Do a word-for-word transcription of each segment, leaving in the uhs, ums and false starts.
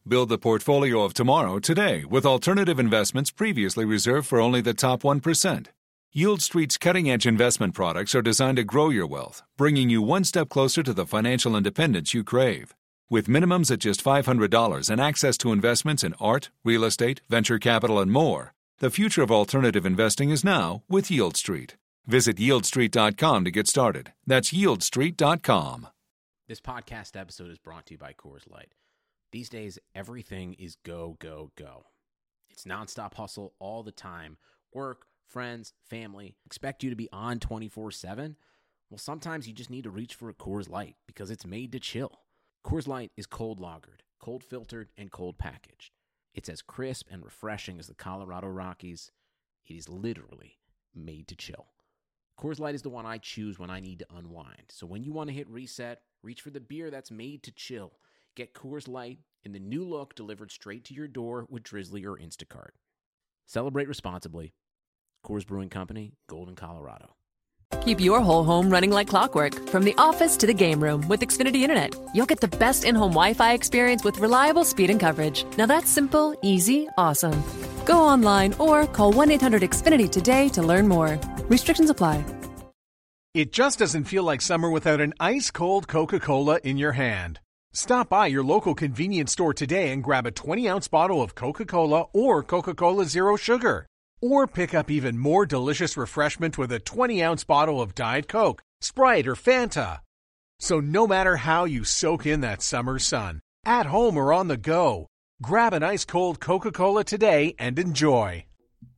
Build the portfolio of tomorrow today with alternative investments previously reserved for only the top one percent. Yield Street's cutting-edge investment products are designed to grow your wealth, bringing you one step closer to the financial independence you crave. With minimums at just five hundred dollars and access to investments in art, real estate, venture capital, and more, the future of alternative investing is now with Yield Street. Visit yield street dot com to get started. That's yield street dot com. This podcast episode is brought to you by Coors Light. These days, everything is go, go, go. It's nonstop hustle all the time. Work, friends, family, expect you to be on twenty-four seven? Well, sometimes you just need to reach for a Coors Light because it's made to chill. Coors Light is cold lagered, cold filtered, and cold packaged. It's as crisp and refreshing as the Colorado Rockies. It is literally made to chill. Coors Light is the one I choose when I need to unwind. So when you want to hit reset, reach for the beer that's made to chill. Get Coors Light in the new look delivered straight to your door with Drizzly or Instacart. Celebrate responsibly. Coors Brewing Company, Golden, Colorado. Keep your whole home running like clockwork, from the office to the game room with Xfinity Internet. You'll get the best in-home Wi-Fi experience with reliable speed and coverage. Now that's simple, easy, awesome. Go online or call one eight hundred X Finity today to learn more. Restrictions apply. It just doesn't feel like summer without an ice-cold Coca-Cola in your hand. Stop by your local convenience store today and grab a twenty-ounce bottle of Coca-Cola or Coca-Cola Zero Sugar. Or pick up even more delicious refreshment with a twenty-ounce bottle of Diet Coke, Sprite, or Fanta. So no matter how you soak in that summer sun, at home or on the go, grab an ice-cold Coca-Cola today and enjoy.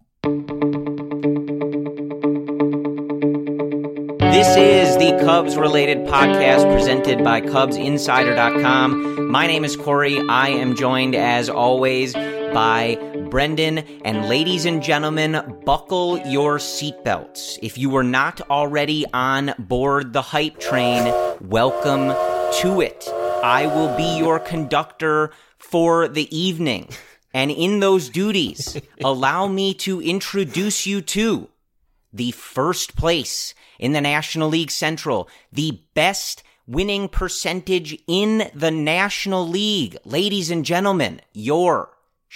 This is the Cubs-related podcast presented by Cubs Insider dot com. My name is Corey. I am joined, as always, by Brendan. And ladies and gentlemen, buckle your seatbelts. If you were not already on board the hype train, welcome to it. I will be your conductor for the evening. And in those duties, allow me to introduce you to the first place in the National League Central, the best winning percentage in the National League. Ladies and gentlemen, your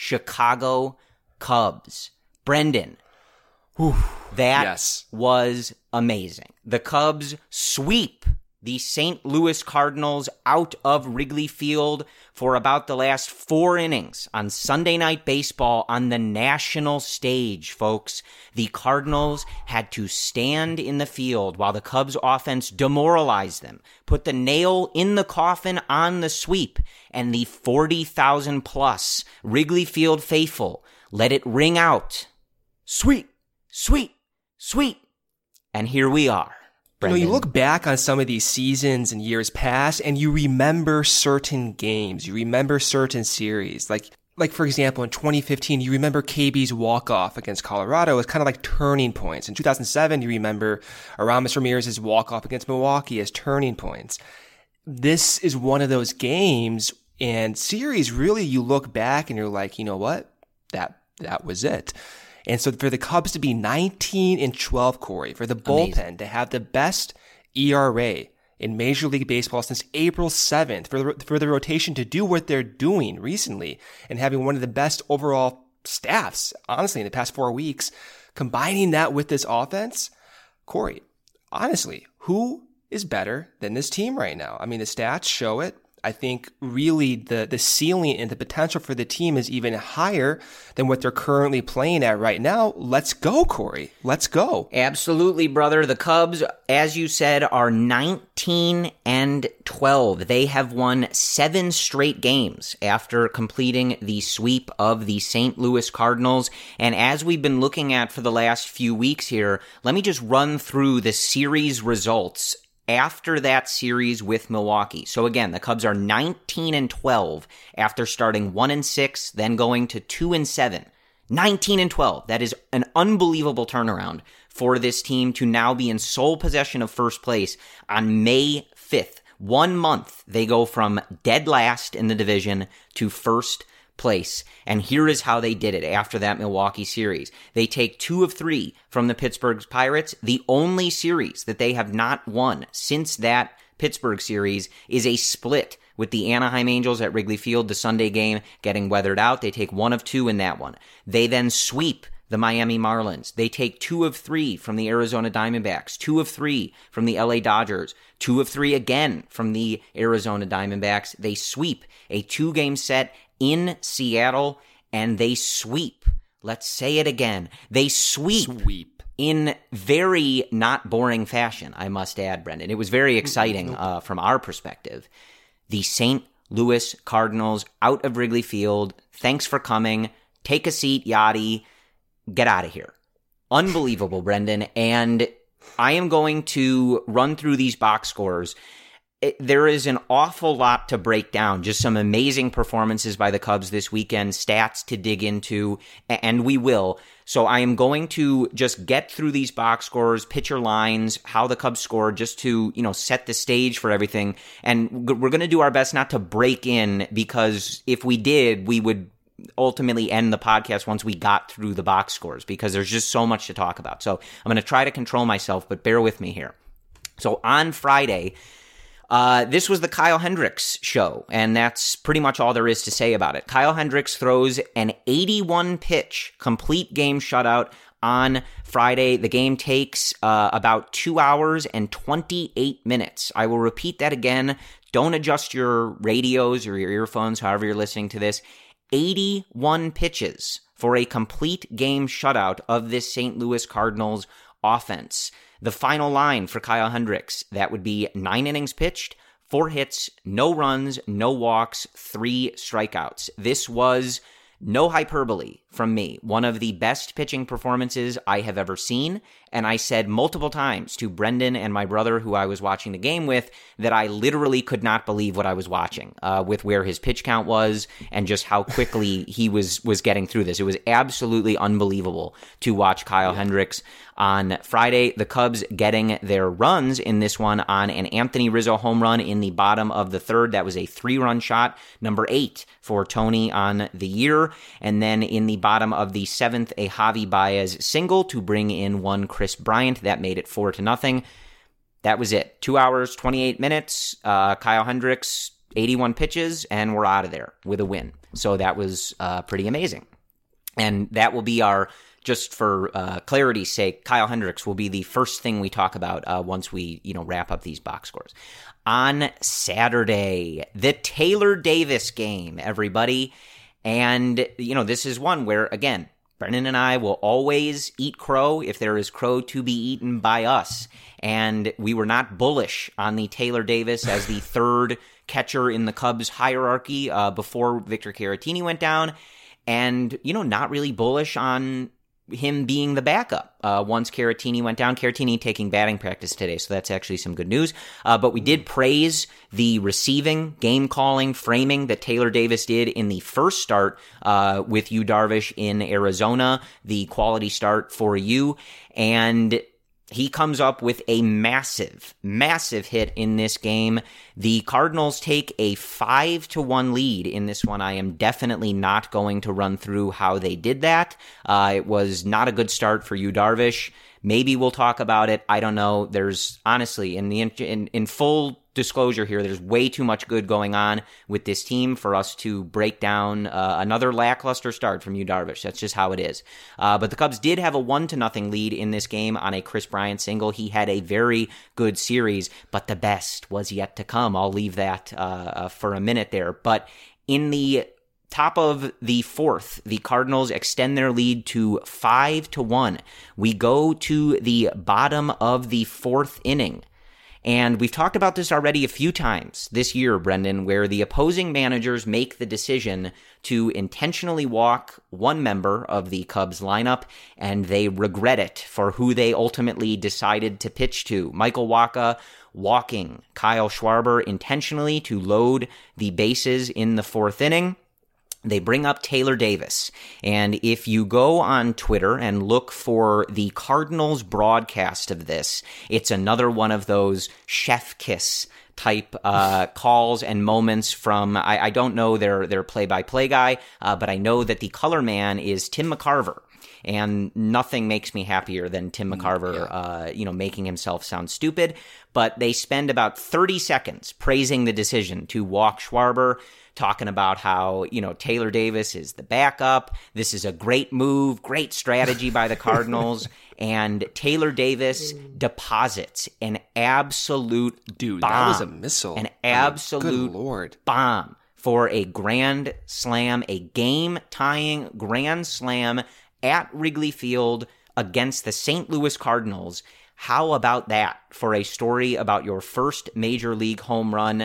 Chicago Cubs. Brendan, whew, that yes. was amazing. The Cubs sweep the Saint Louis Cardinals out of Wrigley Field for about the last four innings on Sunday Night Baseball on the national stage, folks. The Cardinals had to stand in the field while the Cubs offense demoralized them, put the nail in the coffin on the sweep, and the forty thousand plus Wrigley Field faithful let it ring out. Sweet, sweet, sweet. And here we are. You know, you look back on some of these seasons and years past, and you remember certain games. You remember certain series. Like, like for example, in twenty fifteen, you remember K B's walk-off against Colorado as kind of like turning points. In two thousand seven, you remember Aramis Ramirez's walk-off against Milwaukee as turning points. This is one of those games and series, really, you look back and you're like, you know what? That, that was it. And so for the Cubs to be nineteen and twelve, Corey, for the bullpen Amazing. to have the best E R A in Major League Baseball since April seventh, for the, for the rotation to do what they're doing recently and having one of the best overall staffs, honestly, in the past four weeks, combining that with this offense, Corey, honestly, who is better than this team right now? I mean, the stats show it. I think really the, the ceiling and the potential for the team is even higher than what they're currently playing at right now. Let's go, Corey. Let's go. Absolutely, brother. The Cubs, as you said, are nineteen and twelve. They have won seven straight games after completing the sweep of the Saint Louis Cardinals. And as we've been looking at for the last few weeks here, let me just run through the series results after that series with Milwaukee. So again, the Cubs are nineteen and twelve after starting one and six, then going to two and seven. nineteen and twelve. That is an unbelievable turnaround for this team to now be in sole possession of first place on May fifth. One month, they go from dead last in the division to first place. And here is how they did it after that Milwaukee series. They take two of three from the Pittsburgh Pirates. The only series that they have not won since that Pittsburgh series is a split with the Anaheim Angels at Wrigley Field, the Sunday game getting weathered out. They take one of two in that one. They then sweep the Miami Marlins. They take two of three from the Arizona Diamondbacks, two of three from the L A Dodgers, two of three again from the Arizona Diamondbacks. They sweep a two-game set in Seattle, and they sweep. Let's say it again. They sweep. Sweep. In very not boring fashion, I must add, Brendan. It was very exciting uh, from our perspective. The Saint Louis Cardinals out of Wrigley Field. Thanks for coming. Take a seat, Yachty. Get out of here. Unbelievable, Brendan. And I am going to run through these box scores. It, there is an awful lot to break down. Just some amazing performances by the Cubs this weekend, stats to dig into, and we will. So I am going to just get through these box scores, pitcher lines, how the Cubs scored, just to, you know, set the stage for everything. And we're going to do our best not to break in, because if we did, we would ultimately end the podcast once we got through the box scores, because there's just so much to talk about. So I'm going to try to control myself, but bear with me here. So on Friday, uh, this was the Kyle Hendricks show, and that's pretty much all there is to say about it. Kyle Hendricks throws an eighty-one pitch complete game shutout on Friday. The game takes uh, about two hours and twenty-eight minutes. I will repeat that again. Don't adjust your radios or your earphones, however you're listening to this. eighty-one pitches for a complete game shutout of this Saint Louis Cardinals offense. The final line for Kyle Hendricks, that would be nine innings pitched, four hits, no runs, no walks, three strikeouts. This was, no hyperbole from me, one of the best pitching performances I have ever seen. And I said multiple times to Brendan and my brother, who I was watching the game with, that I literally could not believe what I was watching uh, with where his pitch count was and just how quickly he was was getting through this. It was absolutely unbelievable to watch Kyle yeah. Hendricks on Friday. The Cubs getting their runs in this one on an Anthony Rizzo home run in the bottom of the third. That was a three-run shot, number eight for Tony on the year. And then in the bottom of the seventh, a Javi Baez single to bring in one Chris Bryant. That made it four to nothing. That was it. Two hours, twenty-eight minutes. Uh, Kyle Hendricks, eighty-one pitches, and we're out of there with a win. So that was uh, pretty amazing. And that will be our, just for uh, clarity's sake, Kyle Hendricks will be the first thing we talk about uh, once we, you know, wrap up these box scores. On Saturday, the Taylor Davis game, everybody. And, you know, this is one where, again, Brendan and I will always eat crow if there is crow to be eaten by us. And we were not bullish on the Taylor Davis as the third catcher in the Cubs hierarchy uh, before Victor Caratini went down. And, you know, not really bullish on him being the backup uh, once Caratini went down. Caratini taking batting practice today, so that's actually some good news. Uh, but we did praise the receiving, game calling, framing that Taylor Davis did in the first start uh, with Yu Darvish in Arizona, the quality start for you. And he comes up with a massive, massive hit in this game. The Cardinals take a five to one lead in this one. I am definitely not going to run through how they did that. Uh, it was not a good start for Yu Darvish. Maybe we'll talk about it. I don't know. There's honestly, in the in, in full disclosure here, there's way too much good going on with this team for us to break down uh, another lackluster start from Yu Darvish. That's just how it is. Uh, but the Cubs did have a one to nothing lead in this game on a Chris Bryant single. He had a very good series, but the best was yet to come. I'll leave that uh, uh, for a minute there. But in the top of the fourth, the Cardinals extend their lead to five to one. We go to the bottom of the fourth inning. And we've talked about this already a few times this year, Brendan, where the opposing managers make the decision to intentionally walk one member of the Cubs lineup, and they regret it for who they ultimately decided to pitch to. Michael Wacha walking Kyle Schwarber intentionally to load the bases in the fourth inning. They bring up Taylor Davis, and if you go on Twitter and look for the Cardinals broadcast of this, it's another one of those chef kiss type uh, calls and moments from, I, I don't know their, their play-by-play guy, uh, but I know that the color man is Tim McCarver. And nothing makes me happier than Tim McCarver, yeah. uh, you know, making himself sound stupid. But they spend about thirty seconds praising the decision to walk Schwarber, talking about how, you know, Taylor Davis is the backup. This is a great move, great strategy by the Cardinals. And Taylor Davis deposits an absolute Dude, bomb. That was a missile. An absolute I mean, good Lord. bomb for a grand slam, a game-tying grand slam at Wrigley Field against the Saint Louis Cardinals. How about that for a story about your first major league home run?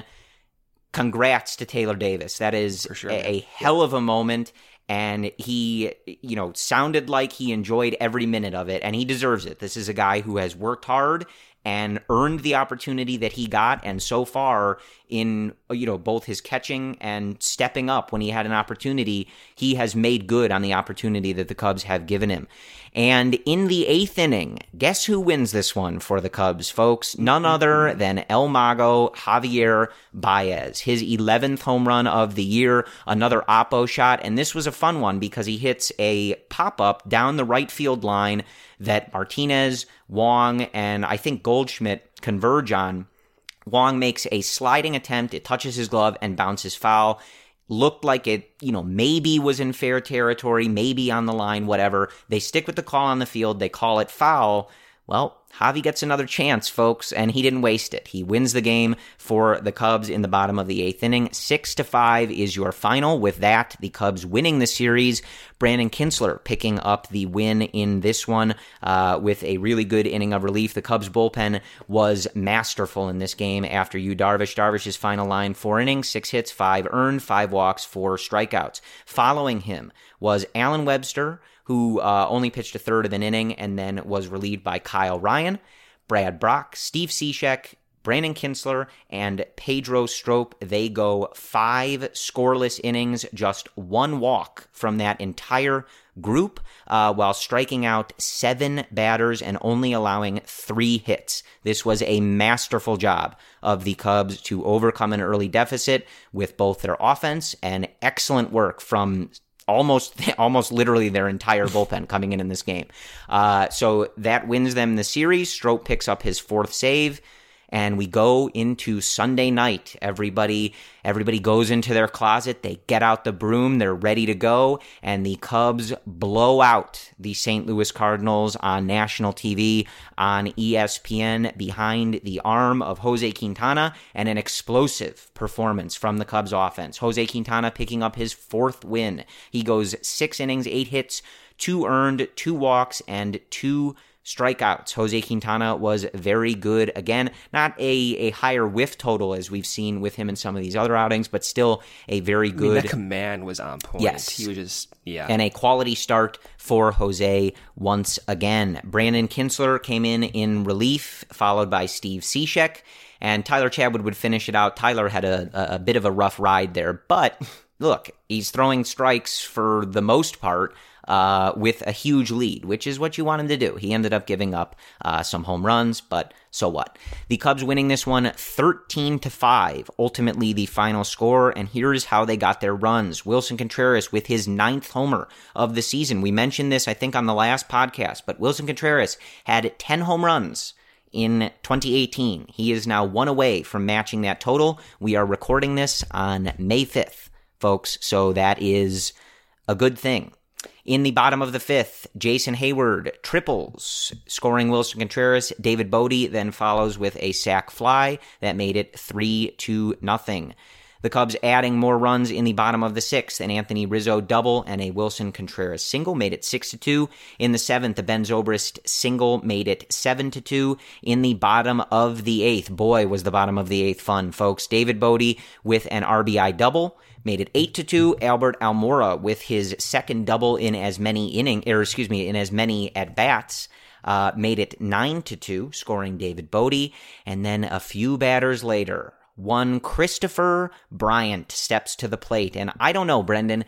Congrats to Taylor Davis. That is sure, a, a hell of a moment. And he, you know, sounded like he enjoyed every minute of it, and he deserves it. This is a guy who has worked hard and earned the opportunity that he got, and so far in, you know, both his catching and stepping up when he had an opportunity, he has made good on the opportunity that the Cubs have given him. And in the eighth inning, guess who wins this one for the Cubs, folks? None other than El Mago Javier Baez, his eleventh home run of the year, another oppo shot, and this was a fun one because he hits a pop-up down the right field line that Martinez, Wong, and I think Goldschmidt converge on. Wong makes a sliding attempt, it touches his glove and bounces foul. Looked like it, you know, maybe was in fair territory, maybe on the line, whatever. They stick with the call on the field, they call it foul. Well, Javi gets another chance, folks, and he didn't waste it. He wins the game for the Cubs in the bottom of the eighth inning. Six to five is your final. With that, the Cubs winning the series. Brandon Kintzler picking up the win in this one uh, with a really good inning of relief. The Cubs bullpen was masterful in this game after Yu Darvish. Darvish's final line, four innings, six hits, five earned, five walks, four strikeouts. Following him was Alan Webster, who uh, only pitched a third of an inning and then was relieved by Kyle Ryan, Brad Brock, Steve Cishek, Brandon Kintzler, and Pedro Strop. They go five scoreless innings, just one walk from that entire group, uh, while striking out seven batters and only allowing three hits. This was a masterful job of the Cubs to overcome an early deficit with both their offense and excellent work from Almost, almost literally their entire bullpen coming in in this game. Uh, so that wins them the series. Strop picks up his fourth save, and we go into Sunday night. Everybody, everybody goes into their closet. They get out the broom. They're ready to go, and the Cubs blow out the Saint Louis Cardinals on national T V on E S P N behind the arm of Jose Quintana, and an explosive performance from the Cubs offense. Jose Quintana picking up his fourth win. He goes six innings, eight hits, two earned, two walks, and two strikeouts. Jose Quintana was very good. Again, not a, a higher whiff total as we've seen with him in some of these other outings, but still a very good. I mean, that command was on point. Yes. He was just, yeah. And a quality start for Jose once again. Brandon Kintzler came in in relief, followed by Steve Cishek, and Tyler Chatwood would finish it out. Tyler had a, a, a bit of a rough ride there, but look, he's throwing strikes for the most part, Uh, with a huge lead, which is what you want him to do. He ended up giving up uh, some home runs, but so what? The Cubs winning this one thirteen to five, ultimately the final score, and here's how they got their runs. Wilson Contreras with his ninth homer of the season. We mentioned this, I think, on the last podcast, but Wilson Contreras had ten home runs in twenty eighteen. He is now one away from matching that total. We are recording this on May fifth, folks, so that is a good thing. In the bottom of the fifth, Jason Hayward triples, scoring Wilson Contreras. David Bodie then follows with a sac fly that made it three to nothing. The Cubs adding more runs in the bottom of the sixth. An Anthony Rizzo double and a Wilson Contreras single made it six to two. In the seventh, a Ben Zobrist single made it seven to two. In the bottom of the eighth, boy, was the bottom of the eighth fun, folks. David Bodie with an R B I double made it eight to two. Albert Almora with his second double in as many inning, or excuse me, in as many at bats. Uh, made it nine to two, scoring David Bodie. And then a few batters later, one Christopher Bryant steps to the plate. And I don't know, Brendan,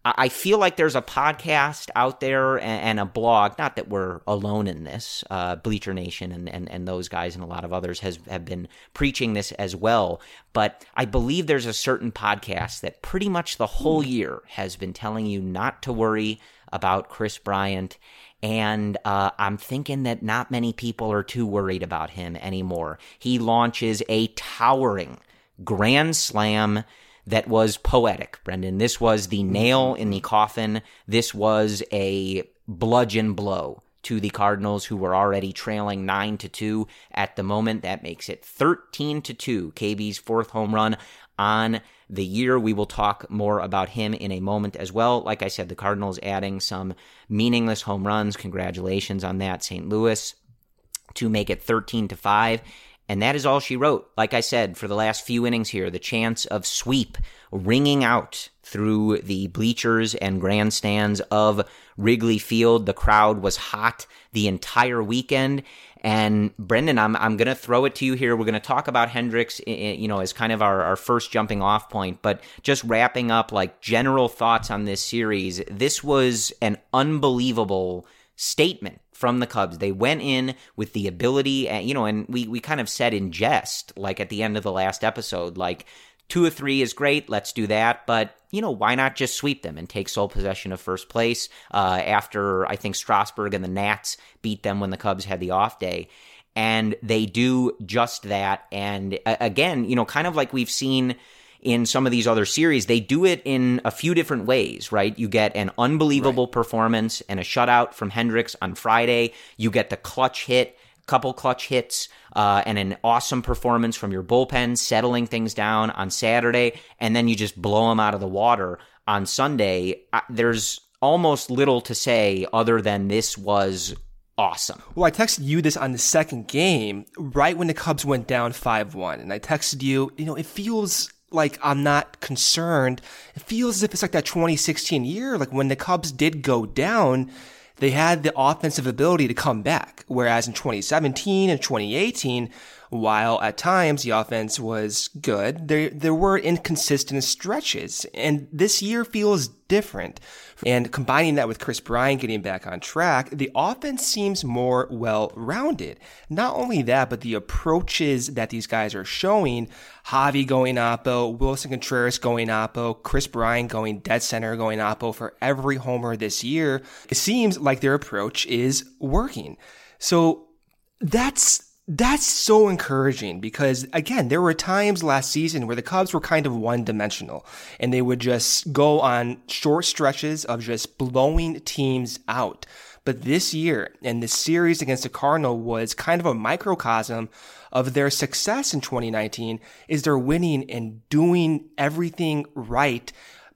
I feel like there's a podcast out there and a blog, not that we're alone in this, uh, Bleacher Nation and, and, and those guys and a lot of others has have been preaching this as well, but I believe there's a certain podcast that pretty much the whole year has been telling you not to worry about Kris Bryant, and uh, I'm thinking that not many people are too worried about him anymore. He launches a towering grand slam that was poetic, Brendan. This was the nail in the coffin. This was a bludgeon blow to the Cardinals, who were already trailing nine to two at the moment. That makes it thirteen to two, K B's fourth home run on the year. We will talk more about him in a moment as well. Like I said, the Cardinals adding some meaningless home runs. Congratulations on that, Saint Louis, to make it thirteen to five. And that is all she wrote. Like I said, for the last few innings here, the chants of sweep ringing out through the bleachers and grandstands of Wrigley Field. The crowd was hot the entire weekend. And Brendan, I'm I'm going to throw it to you here. We're going to talk about Hendricks, you know, as kind of our, our first jumping off point, but just wrapping up like general thoughts on this series. This was an unbelievable statement from the Cubs. They went in with the ability, and, you know, and we, we kind of said in jest, like at the end of the last episode, like two or three is great, let's do that, but, you know, why not just sweep them and take sole possession of first place uh, after, I think, Strasburg and the Nats beat them when the Cubs had the off day. And they do just that. And uh, again, you know, kind of like we've seen in some of these other series, they do it in a few different ways, right? You get an unbelievable right. performance and a shutout from Hendricks on Friday. You get the clutch hit, couple clutch hits, uh, and an awesome performance from your bullpen, settling things down on Saturday, and then you just blow them out of the water on Sunday. I, there's almost little to say other than this was awesome. Well, I texted you this on the second game, right when the Cubs went down five one, and I texted you, you know, it feels like I'm not concerned. It feels as if it's like that twenty sixteen year, like when the Cubs did go down, they had the offensive ability to come back. Whereas in twenty seventeen and twenty eighteen, while at times the offense was good, there there were inconsistent stretches. And this year feels different. And combining that with Kris Bryant getting back on track, the offense seems more well-rounded. Not only that, but the approaches that these guys are showing, Javi going oppo, Wilson Contreras going oppo, Kris Bryant going dead center, going oppo for every homer this year, it seems like their approach is working. So that's That's so encouraging because, again, there were times last season where the Cubs were kind of one-dimensional and they would just go on short stretches of just blowing teams out. But this year, and the series against the Cardinals was kind of a microcosm of their success in twenty nineteen, is they're winning and doing everything right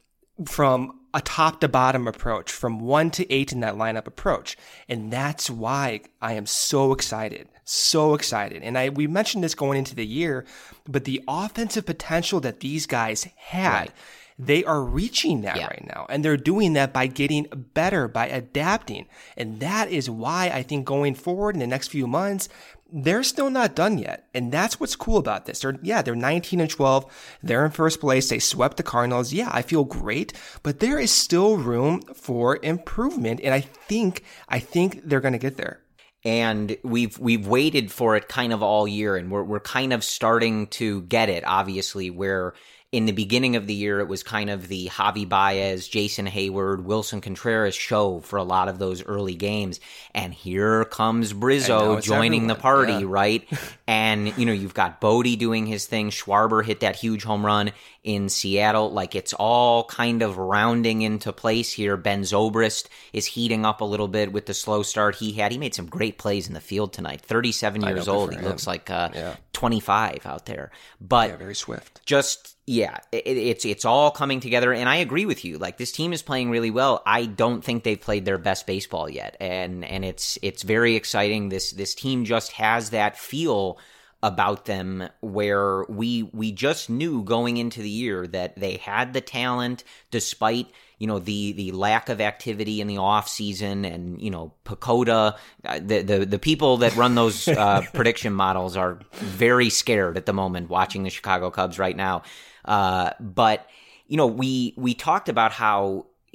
from a top to bottom approach, from one to eight in that lineup approach. And that's why I am so excited, so excited. And I, we mentioned this going into the year, but the offensive potential that these guys had, right. they are reaching that yeah. right now. And they're doing that by getting better, by adapting. And that is why I think going forward in the next few months, they're still not done yet. And that's what's cool about this. They're, yeah, they're nineteen and twelve. They're in first place. They swept the Cardinals. Yeah, I feel great, but there is still room for improvement. And I think, I think they're going to get there. And we've, we've waited for it kind of all year, and we're, we're kind of starting to get it, obviously, where in the beginning of the year, it was kind of the Javi Baez, Jason Hayward, Wilson Contreras show for a lot of those early games. And here comes Brizzo joining everyone. the party, yeah. right? And, you know, you've got Bodie doing his thing. Schwarber hit that huge home run in Seattle. Like, it's all kind of rounding into place here. Ben Zobrist is heating up a little bit with the slow start he had. He made some great plays in the field tonight. thirty-seven years old. He him. looks like uh, yeah. twenty-five out there. But yeah, very swift. Just... Yeah, it, it's it's all coming together, and I agree with you. Like, this team is playing really well. I don't think they've played their best baseball yet, and and it's it's very exciting. This this team just has that feel about them where we we just knew going into the year that they had the talent despite, you know, the the lack of activity in the off season, and, you know, Pacoda, the the, the people that run those uh, prediction models are very scared at the moment watching the Chicago Cubs right now. Uh, but, you know, we, we talked about how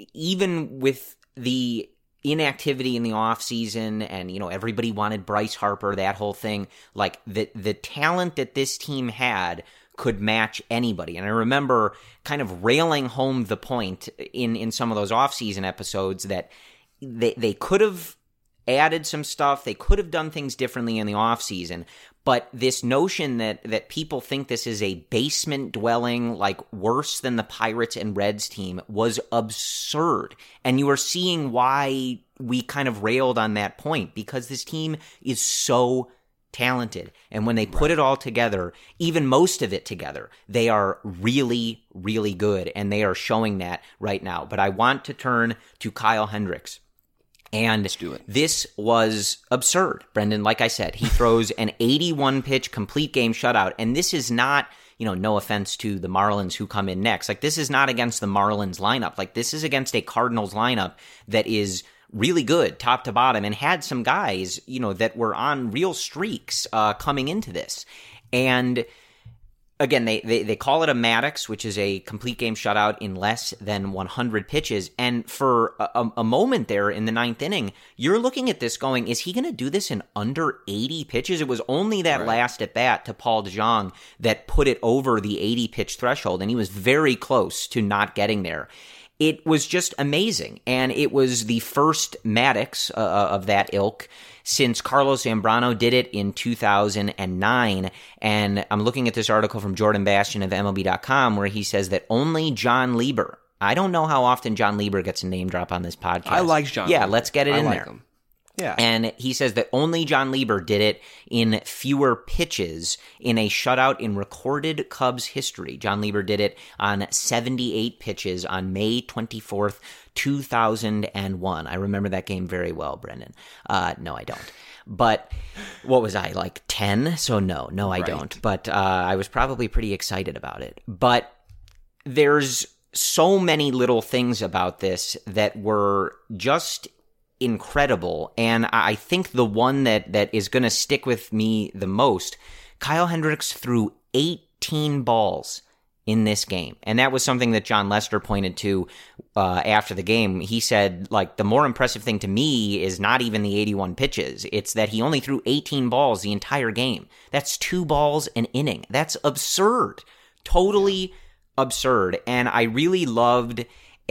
even with the inactivity in the offseason and, you know, everybody wanted Bryce Harper, that whole thing, like the the talent that this team had could match anybody. And I remember kind of railing home the point in, in some of those offseason episodes that they they could have added some stuff, they could have done things differently in the offseason, but this notion that that people think this is a basement dwelling, like worse than the Pirates and Reds team, was absurd. And you are seeing why we kind of railed on that point, because this team is so talented. And when they put right. it all together, even most of it together, they are really, really good. And they are showing that right now. But I want to turn to Kyle Hendricks. And Let's do it. This was absurd, Brendan. Like I said, he throws an eighty-one pitch complete game shutout. And this is not, you know, no offense to the Marlins who come in next. Like, this is not against the Marlins lineup. Like, this is against a Cardinals lineup that is really good top to bottom and had some guys, you know, that were on real streaks uh, coming into this. And again, they, they they call it a Maddux, which is a complete game shutout in less than one hundred pitches. And for a, a moment there in the ninth inning, you're looking at this going, is he going to do this in under eighty pitches? It was only that right. last at bat to Paul DeJong that put it over the eighty pitch threshold, and he was very close to not getting there. It was just amazing, and it was the first Maddux uh, of that ilk since Carlos Zambrano did it in two thousand nine. And I'm looking at this article from Jordan Bastian of M L B dot com where he says that only John Lieber, I don't know how often John Lieber gets a name drop on this podcast. I like John Yeah, Lieber. let's get it I in like there. Him. Yeah. And he says that only John Lieber did it in fewer pitches in a shutout in recorded Cubs history. John Lieber did it on seventy-eight pitches on May twenty-fourth, two thousand one. I remember that game very well, Brendan. Uh, no, I don't. But what was I, like ten? So no, no, I right. don't. But uh, I was probably pretty excited about it. But there's so many little things about this that were just incredible. And I think the one that, that is going to stick with me the most, Kyle Hendricks threw eighteen balls in this game. And that was something that John Lester pointed to uh, after the game. He said, like, the more impressive thing to me is not even the eighty-one pitches. It's that he only threw eighteen balls the entire game. That's two balls an inning. That's absurd. Totally absurd. And I really loved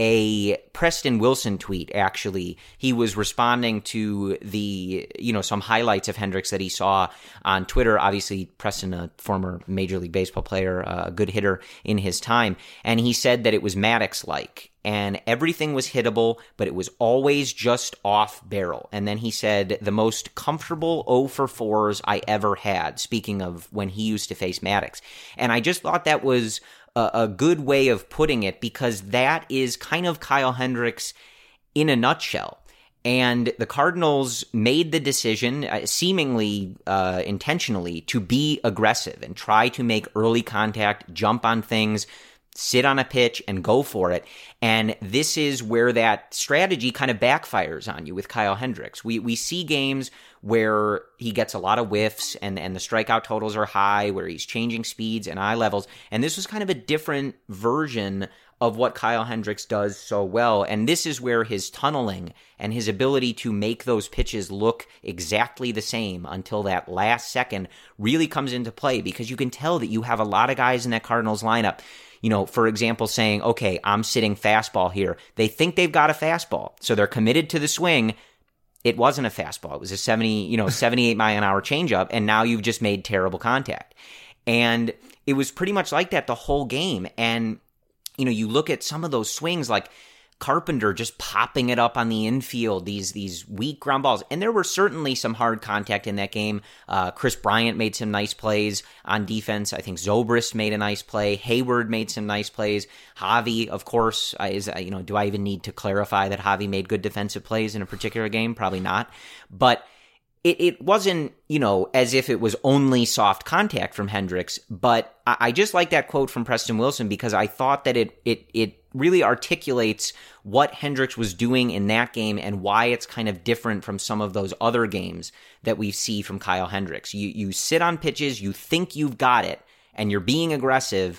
a Preston Wilson tweet, actually. He was responding to the, you know, some highlights of Hendricks that he saw on Twitter. Obviously, Preston, a former Major League Baseball player, a good hitter in his time. And he said that it was Maddux-like. And everything was hittable, but it was always just off barrel. And then he said, the most comfortable oh for fours I ever had, speaking of when he used to face Maddux. And I just thought that was a, a good way of putting it, because that is kind of Kyle Hendricks in a nutshell. And the Cardinals made the decision, uh, seemingly uh, intentionally, to be aggressive and try to make early contact, jump on things, sit on a pitch and go for it. And this is where that strategy kind of backfires on you with Kyle Hendricks. We we see games where he gets a lot of whiffs and, and the strikeout totals are high, where he's changing speeds and eye levels. And this was kind of a different version of what Kyle Hendricks does so well. And this is where his tunneling and his ability to make those pitches look exactly the same until that last second really comes into play, because you can tell that you have a lot of guys in that Cardinals lineup, you know, for example, saying, okay, I'm sitting fastball here. They think they've got a fastball, so they're committed to the swing. It wasn't a fastball. It was a seventy, you know, seventy-eight mile an hour changeup, and now you've just made terrible contact. And it was pretty much like that the whole game. And, you know, you look at some of those swings, like Carpenter just popping it up on the infield, these these weak ground balls. And there were certainly some hard contact in that game. Uh, Chris Bryant made some nice plays on defense. I think Zobrist made a nice play. Hayward made some nice plays. Javi, of course, uh, is, uh, you know, do I even need to clarify that Javi made good defensive plays in a particular game? Probably not. But it, it wasn't, you know, as if it was only soft contact from Hendricks. But I, I just like that quote from Preston Wilson, because I thought that it it it really articulates what Hendricks was doing in that game and why it's kind of different from some of those other games that we see from Kyle Hendricks. You you sit on pitches, you think you've got it, and you're being aggressive,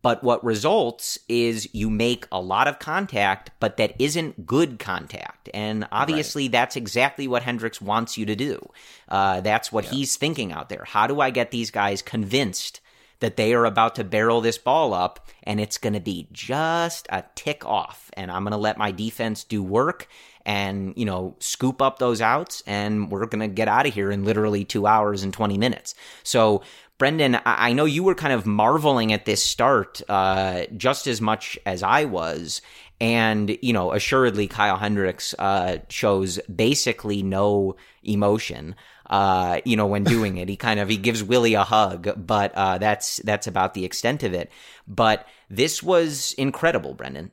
But what results is you make a lot of contact, but that isn't good contact. And obviously right. that's exactly what Hendricks wants you to do. Uh, that's what yeah. he's thinking out there. How do I get these guys convinced that they are about to barrel this ball up and it's going to be just a tick off, and I'm going to let my defense do work and, you know, scoop up those outs, and we're going to get out of here in literally two hours and twenty minutes. So, Brendan, I know you were kind of marveling at this start uh, just as much as I was. And, you know, assuredly, Kyle Hendricks uh, shows basically no emotion, uh, you know, when doing it. He kind of, he gives Willie a hug, but uh, that's that's about the extent of it. But this was incredible, Brendan.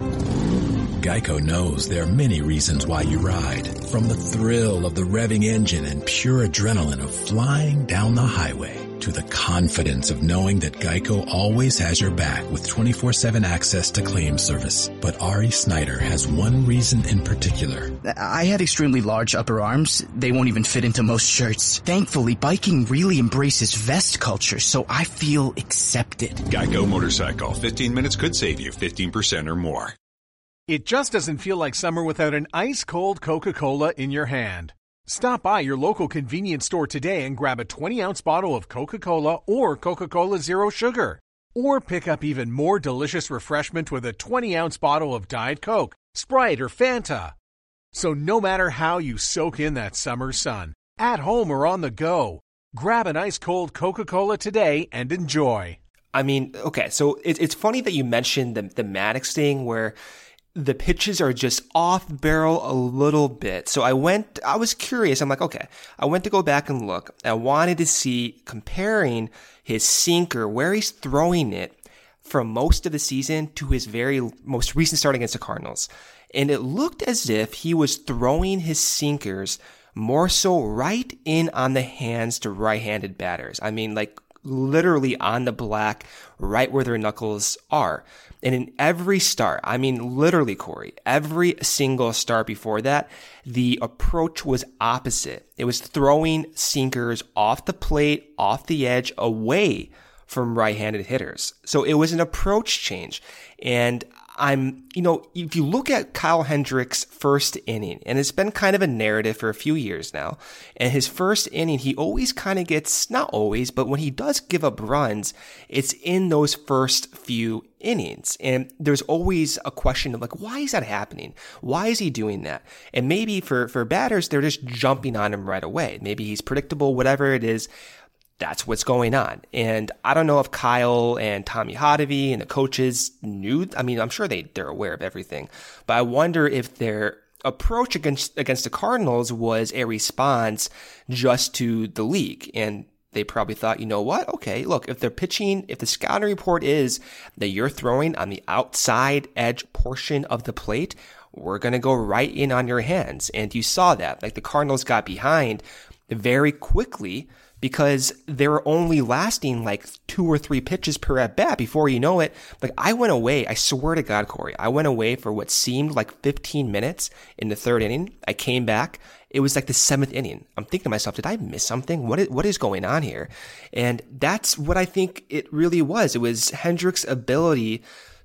Geico knows there are many reasons why you ride. From the thrill of the revving engine and pure adrenaline of flying down the highway, to the confidence of knowing that Geico always has your back with twenty-four seven access to claim service. But Ari Snyder has one reason in particular. I had extremely large upper arms. They won't even fit into most shirts. Thankfully, biking really embraces vest culture, so I feel accepted. Geico Motorcycle. fifteen minutes could save you fifteen percent or more. It just doesn't feel like summer without an ice-cold Coca-Cola in your hand. Stop by your local convenience store today and grab a twenty-ounce bottle of Coca-Cola or Coca-Cola Zero Sugar. Or pick up even more delicious refreshment with a twenty-ounce bottle of Diet Coke, Sprite, or Fanta. So no matter how you soak in that summer sun, at home or on the go, grab an ice-cold Coca-Cola today and enjoy. I mean, okay, so it, it's funny that you mentioned the, the Maddux thing where the pitches are just off barrel a little bit. So I went, I was curious. I'm like, okay, I went to go back and look. I wanted to see, comparing his sinker, where he's throwing it from most of the season to his very most recent start against the Cardinals. And it looked as if he was throwing his sinkers more so right in on the hands to right-handed batters. I mean, like literally on the black, right where their knuckles are. And in every start, I mean, literally, Corey, every single start before that, the approach was opposite. It was throwing sinkers off the plate, off the edge, away from right-handed hitters. So it was an approach change. And I'm, you know, if you look at Kyle Hendricks' first inning, and it's been kind of a narrative for a few years now, and his first inning, he always kind of gets, not always, but when he does give up runs, it's in those first few innings. And there's always a question of like, why is that happening? Why is he doing that? And maybe for, for batters, they're just jumping on him right away. Maybe he's predictable, whatever it is. That's what's going on. And I don't know if Kyle and Tommy Hotovy and the coaches knew. I mean, I'm sure they, they're aware of everything. But I wonder if their approach against against the Cardinals was a response just to the league. And they probably thought, you know what? Okay, look, if they're pitching, if the scouting report is that you're throwing on the outside edge portion of the plate, we're going to go right in on your hands. And you saw that. Like the Cardinals got behind very quickly, because they were only lasting like two or three pitches per at bat before you know it. Like I went away, I swear to God, Corey, I went away for what seemed like fifteen minutes in the third inning. I came back. It was like the seventh inning. I'm thinking to myself, did I miss something? What is, what is going on here? And that's what I think it really was. It was Hendricks' ability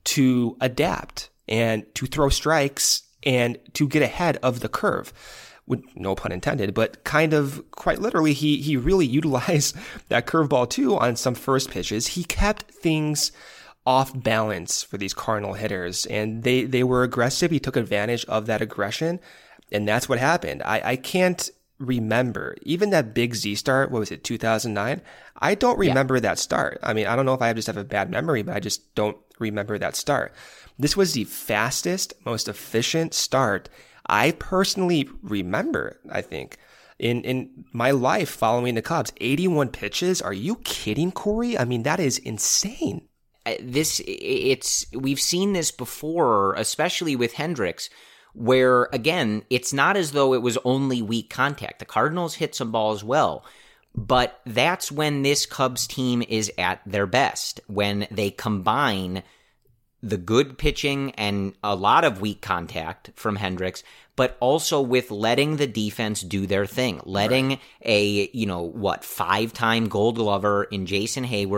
to adapt and to throw strikes and to get ahead of the curve. With no pun intended, but kind of quite literally, he he really utilized that curveball too on some first pitches. He kept things off balance for these Cardinal hitters, and they, they were aggressive. He took advantage of that aggression, and that's what happened. I, I can't remember, even that big Z start, what was it, two thousand nine? I don't remember yeah. that start. I mean, I don't know if I just have a bad memory, but I just don't remember that start. This was the fastest, most efficient start I personally remember, I think, in, in my life following the Cubs. eighty-one pitches. Are you kidding, Corey? I mean, that is insane. This, it's, we've seen this before, especially with Hendricks, where, again, it's not as though it was only weak contact. The Cardinals hit some balls well, but that's when this Cubs team is at their best, when they combine the good pitching and a lot of weak contact from Hendricks, but also with letting the defense do their thing, letting right. a, you know, what, five-time Gold Glover in Jason Hayward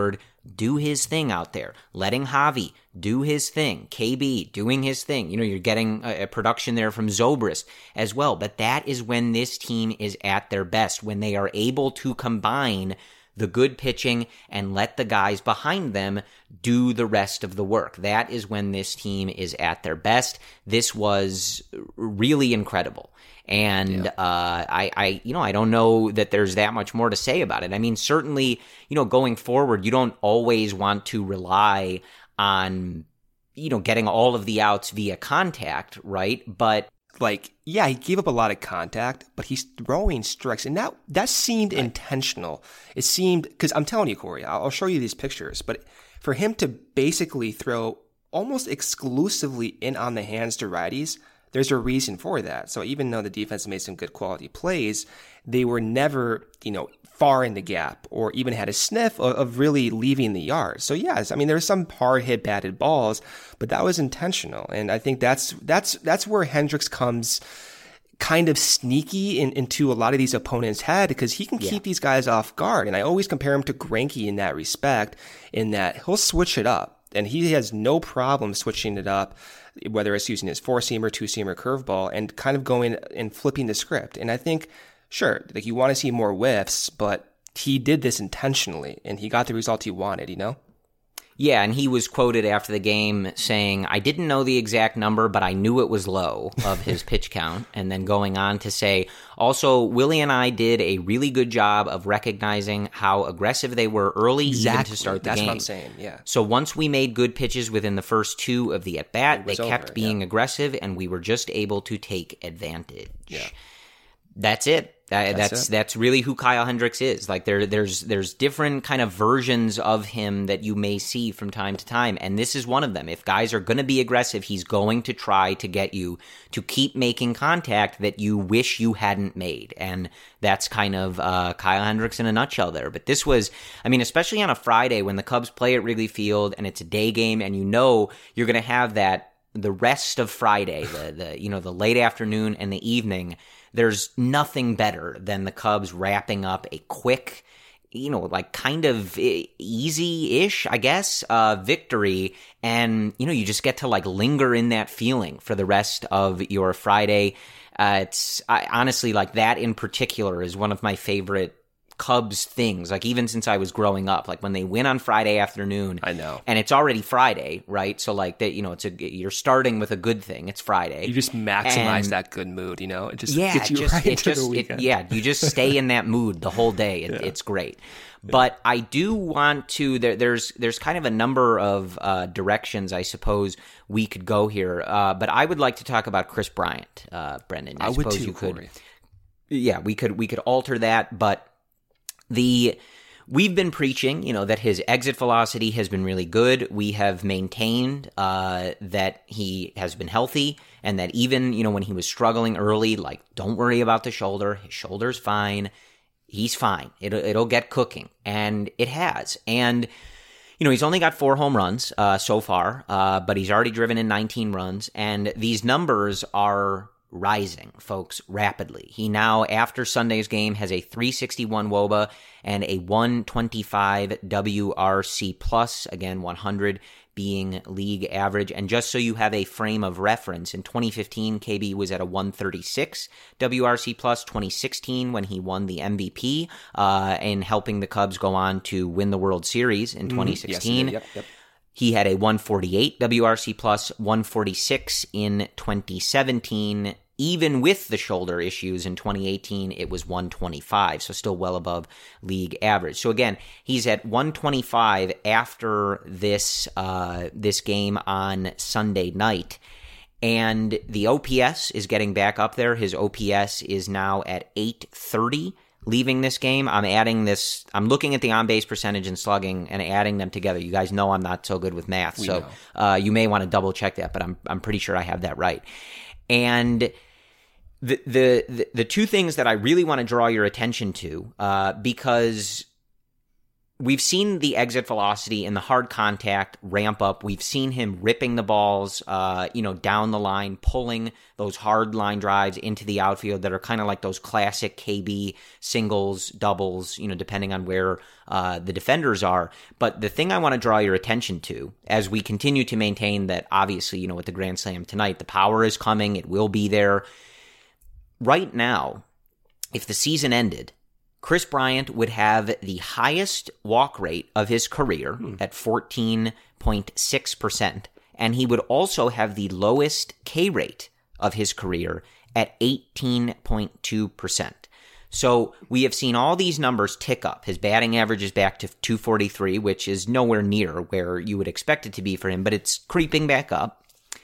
do his thing out there, letting Javi do his thing, K B doing his thing. You know, you're getting a, a production there from Zobrist as well. But that is when this team is at their best, when they are able to combine the good pitching and let the guys behind them do the rest of the work. That is when this team is at their best. This was really incredible. And yeah. uh, I, I, you know, I don't know that there's that much more to say about it. I mean, certainly, you know, going forward, you don't always want to rely on, you know, getting all of the outs via contact, right? But like, yeah, he gave up a lot of contact, but he's throwing strikes, and that that seemed right. intentional. It seemed, because I'm telling you, Corey, I'll, I'll show you these pictures, but for him to basically throw almost exclusively in on the hands to righties, there's a reason for that. So even though the defense made some good quality plays, they were never, you know, far in the gap or even had a sniff of, of really leaving the yard. So yes, I mean, there's some hard hit batted balls, but that was intentional. And I think that's, that's, that's where Hendricks comes kind of sneaky in, into a lot of these opponents' head, because he can keep yeah. these guys off guard. And I always compare him to Greinke in that respect, in that he'll switch it up and he has no problem switching it up, whether it's using his four-seamer, two-seamer, curveball, and kind of going and flipping the script. And I think, sure, like you want to see more whiffs, but he did this intentionally, and he got the result he wanted, you know? Yeah, and he was quoted after the game saying, I didn't know the exact number, but I knew it was low of his pitch count. And then going on to say, also, Willie and I did a really good job of recognizing how aggressive they were early, exactly. even to start the That's game. That's what I'm saying, yeah. So once we made good pitches within the first two of the at-bat, they kept over, being yeah. aggressive, and we were just able to take advantage. Yeah. That's it. That, that's that's it. that's really who Kyle Hendricks is. Like there, there's there's different kind of versions of him that you may see from time to time, and this is one of them. If guys are going to be aggressive, he's going to try to get you to keep making contact that you wish you hadn't made, and that's kind of uh, Kyle Hendricks in a nutshell there. But this was, I mean, especially on a Friday when the Cubs play at Wrigley Field and it's a day game, and you know you're going to have that the rest of Friday, the the you know the late afternoon and the evening. There's nothing better than the Cubs wrapping up a quick, you know, like kind of easy-ish, I guess, uh, victory. And, you know, you just get to like linger in that feeling for the rest of your Friday. Uh, it's I, honestly like that in particular is one of my favorite Cubs things, like even since I was growing up, like when they win on Friday afternoon, I know, and it's already Friday, right? So like that, you know, it's a you're starting with a good thing. It's Friday. You just maximize and, that good mood, you know. It just yeah, gets you just, right it into just, the weekend. It, yeah, you just stay in that mood the whole day. It, yeah. It's great. But I do want to. There, there's there's kind of a number of uh, directions I suppose we could go here. Uh, but I would like to talk about Kris Bryant, uh, Brendan. I, I suppose would too, you could. Corey. Yeah, we could we could alter that, but. The we've been preaching, you know, that his exit velocity has been really good. We have maintained uh, that he has been healthy, and that even, you know, when he was struggling early, like, don't worry about the shoulder. His shoulder's fine. He's fine. It'll it'll get cooking, and it has. And you know, he's only got four home runs uh, so far, uh, but he's already driven in nineteen runs, and these numbers are rising, folks, rapidly. He now, after Sunday's game, has a three sixty-one W O B A and a one twenty-five W R C plus, again, one hundred being league average. And just so you have a frame of reference, in twenty fifteen, K B was at a one thirty-six W R C plus, twenty sixteen when he won the M V P uh, and helping the Cubs go on to win the World Series in twenty sixteen. Mm, yes, yep, yep. He had a one forty-eight W R C plus, one forty-six in twenty seventeen. Even with the shoulder issues in twenty eighteen, it was one twenty-five, so still well above league average. So again, he's at one twenty-five after this uh, this game on Sunday night. And the O P S is getting back up there. His O P S is now at eight thirty. Leaving this game, I'm adding this, I'm looking at the on-base percentage and slugging and adding them together. You guys know I'm not so good with math, we so uh, you may want to double check that, but I'm I'm pretty sure I have that right. And the the the, the two things that I really want to draw your attention to, uh, because we've seen the exit velocity and the hard contact ramp up. We've seen him ripping the balls, uh, you know, down the line, pulling those hard line drives into the outfield that are kind of like those classic K B singles, doubles, you know, depending on where uh, the defenders are. But the thing I want to draw your attention to, as we continue to maintain that, obviously, you know, with the Grand Slam tonight, the power is coming. It will be there. Right now, if the season ended, Kris Bryant would have the highest walk rate of his career hmm. at fourteen point six percent, and he would also have the lowest K rate of his career at eighteen point two percent. So we have seen all these numbers tick up. His batting average is back to two forty-three, which is nowhere near where you would expect it to be for him, but it's creeping back up.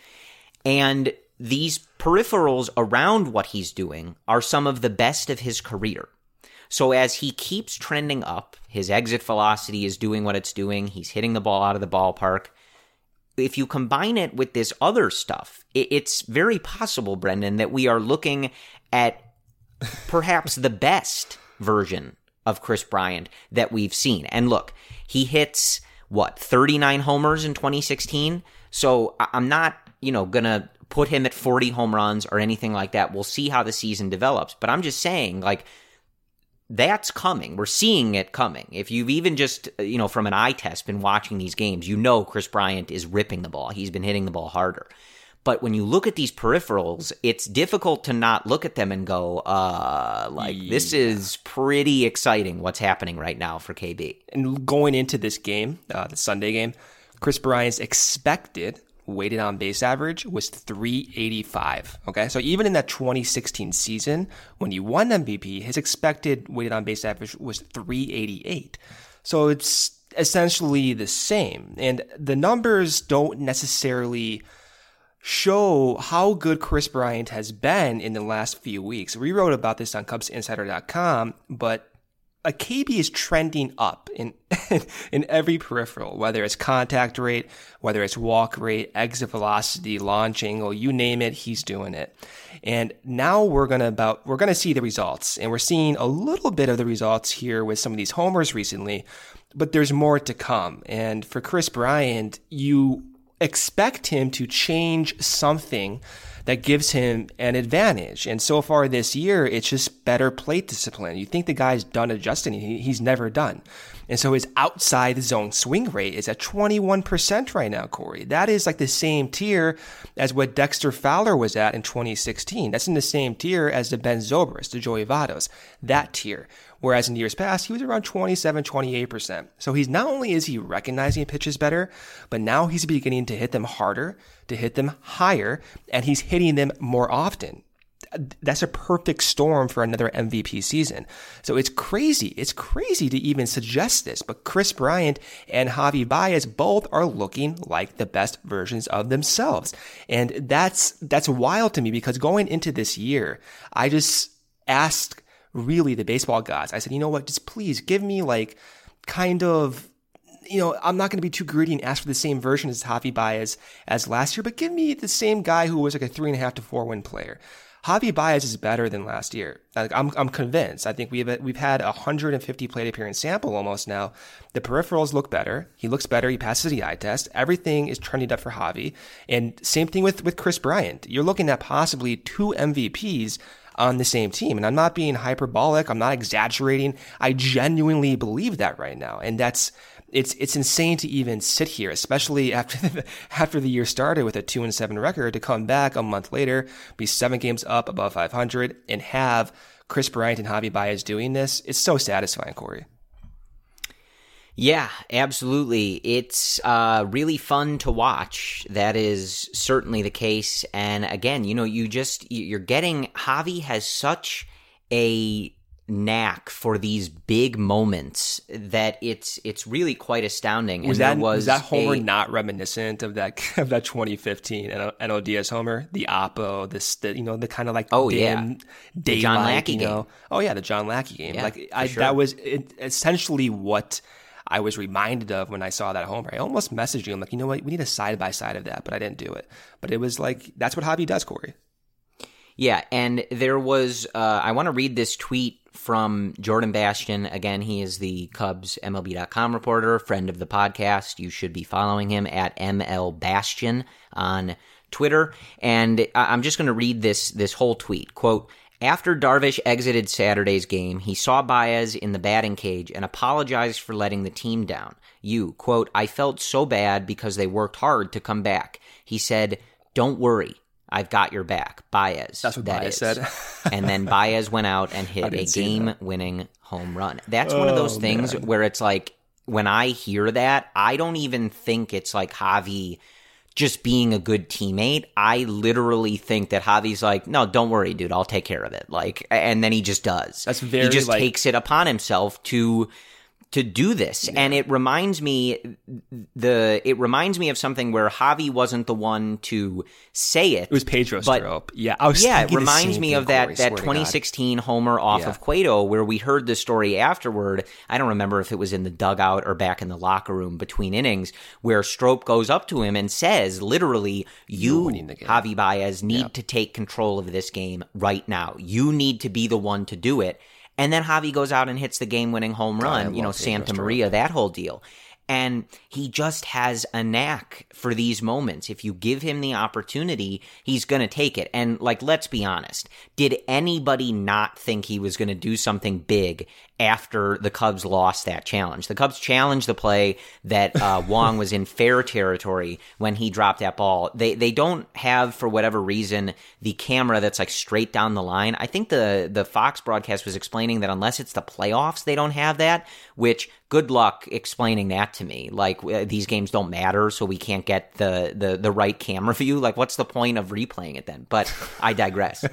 And these peripherals around what he's doing are some of the best of his career. So as he keeps trending up, his exit velocity is doing what it's doing. He's hitting the ball out of the ballpark. If you combine it with this other stuff, it's very possible, Brendan, that we are looking at perhaps the best version of Kris Bryant that we've seen. And look, he hits, what, thirty-nine homers in twenty sixteen? So I'm not, you know, going to put him at forty home runs or anything like that. We'll see how the season develops. But I'm just saying, like, that's coming. We're seeing it coming. If you've even just, you know, from an eye test been watching these games, you know Kris Bryant is ripping the ball. He's been hitting the ball harder. But when you look at these peripherals, it's difficult to not look at them and go, uh, like, yeah. This is pretty exciting what's happening right now for K B. And going into this game, uh, the Sunday game, Kris Bryant's expected weighted on base average was three eighty-five. Okay, so even in that twenty sixteen season, when he won M V P, his expected weighted on base average was three eighty-eight. So it's essentially the same. And the numbers don't necessarily show how good Kris Bryant has been in the last few weeks. We wrote about this on Cubs Insider dot com, but a K B is trending up in in every peripheral, whether it's contact rate, whether it's walk rate, exit velocity, launch angle, you name it, he's doing it. And now we're gonna about we're gonna see the results, and we're seeing a little bit of the results here with some of these homers recently, but there's more to come. And for Kris Bryant, you expect him to change something that gives him an advantage. And so far this year, it's just better plate discipline. You think the guy's done adjusting. He, he's never done. And so his outside zone swing rate is at twenty-one percent right now, Corey. That is like the same tier as what Dexter Fowler was at in twenty sixteen. That's in the same tier as the Ben Zobrist, the Joey Vottos, that tier. Whereas in years past, he was around twenty-seven, twenty-eight percent. So he's not only is he recognizing pitches better, but now he's beginning to hit them harder, to hit them higher, and he's hitting them more often. That's a perfect storm for another M V P season. So it's crazy. It's crazy to even suggest this, but Kris Bryant and Javi Baez both are looking like the best versions of themselves. And that's, that's wild to me, because going into this year, I just asked really the baseball gods. I said, you know what, just please give me like kind of, you know, I'm not going to be too greedy and ask for the same version as Javi Baez as last year, but give me the same guy who was like a three and a half to four win player. Javi Baez is better than last year. I'm I'm convinced. I think we've we've had a one hundred fifty plate appearance sample almost now. The peripherals look better. He looks better. He passes the eye test. Everything is trending up for Javi. And same thing with with Kris Bryant. You're looking at possibly two M V Ps on the same team. And I'm not being hyperbolic. I'm not exaggerating. I genuinely believe that right now. And that's It's it's insane to even sit here, especially after the, after the year started with a two and seven record, to come back a month later, be seven games up above five hundred, and have Kris Bryant and Javi Baez doing this. It's so satisfying, Corey. Yeah, absolutely. It's uh, really fun to watch. That is certainly the case. And again, you know, you just you're getting Javi has such a knack for these big moments that it's it's really quite astounding. Was and that was, was that homer a, not reminiscent of that of that twenty fifteen N L D S homer, the Oppo, this the, you know the kind of like oh dim, yeah the John Lackey you know, game. Oh yeah, the John Lackey game. Yeah, like I, sure. that was it, essentially what I was reminded of when I saw that homer. I almost messaged you. I'm like, you know what, we need a side by side of that, but I didn't do it. But it was like that's what Javi does, Corey. Yeah, and there was, uh, I want to read this tweet from Jordan Bastian. Again, he is the Cubs M L B dot com reporter, friend of the podcast. You should be following him at M L Bastian on Twitter. And I'm just going to read this this whole tweet. Quote, after Darvish exited Saturday's game, he saw Baez in the batting cage and apologized for letting the team down. You, quote, I felt so bad because they worked hard to come back. He said, don't worry. I've got your back, Baez. That's what that Baez is. said. And then Baez went out and hit a game-winning home run. That's one of those Oh, things man. where it's like, when I hear that, I don't even think it's like Javi just being a good teammate. I literally think that Javi's like, no, don't worry, dude, I'll take care of it. Like, and then he just does. That's very, he just like- takes it upon himself to to do this. Yeah. And it reminds me the it reminds me of something where Javi wasn't the one to say it. It was Pedro but, Strop. Yeah, I was yeah, it thinking the reminds same me thing, of that Corey, that swear to twenty sixteen homer off Yeah. of Cueto, where we heard the story afterward. I don't remember if it was in the dugout or back in the locker room between innings, where Strop goes up to him and says, literally, you, winning the game. Javi Baez, need Yeah. to take control of this game right now. You need to be the one to do it. And then Javi goes out and hits the game-winning home God, I run, you know, love Pedro Santa Strop. Maria, that whole deal. And he just has a knack for these moments. If you give him the opportunity, he's going to take it. And, like, let's be honest. Did anybody not think he was going to do something big after the Cubs lost that challenge? The Cubs challenged the play that uh, Wong was in fair territory when he dropped that ball. They they don't have, for whatever reason, the camera that's, like, straight down the line. I think the, the Fox broadcast was explaining that unless it's the playoffs, they don't have that, which... good luck explaining that to me. Like, uh, these games don't matter, so we can't get the, the, the right camera view. Like, what's the point of replaying it then? But I digress.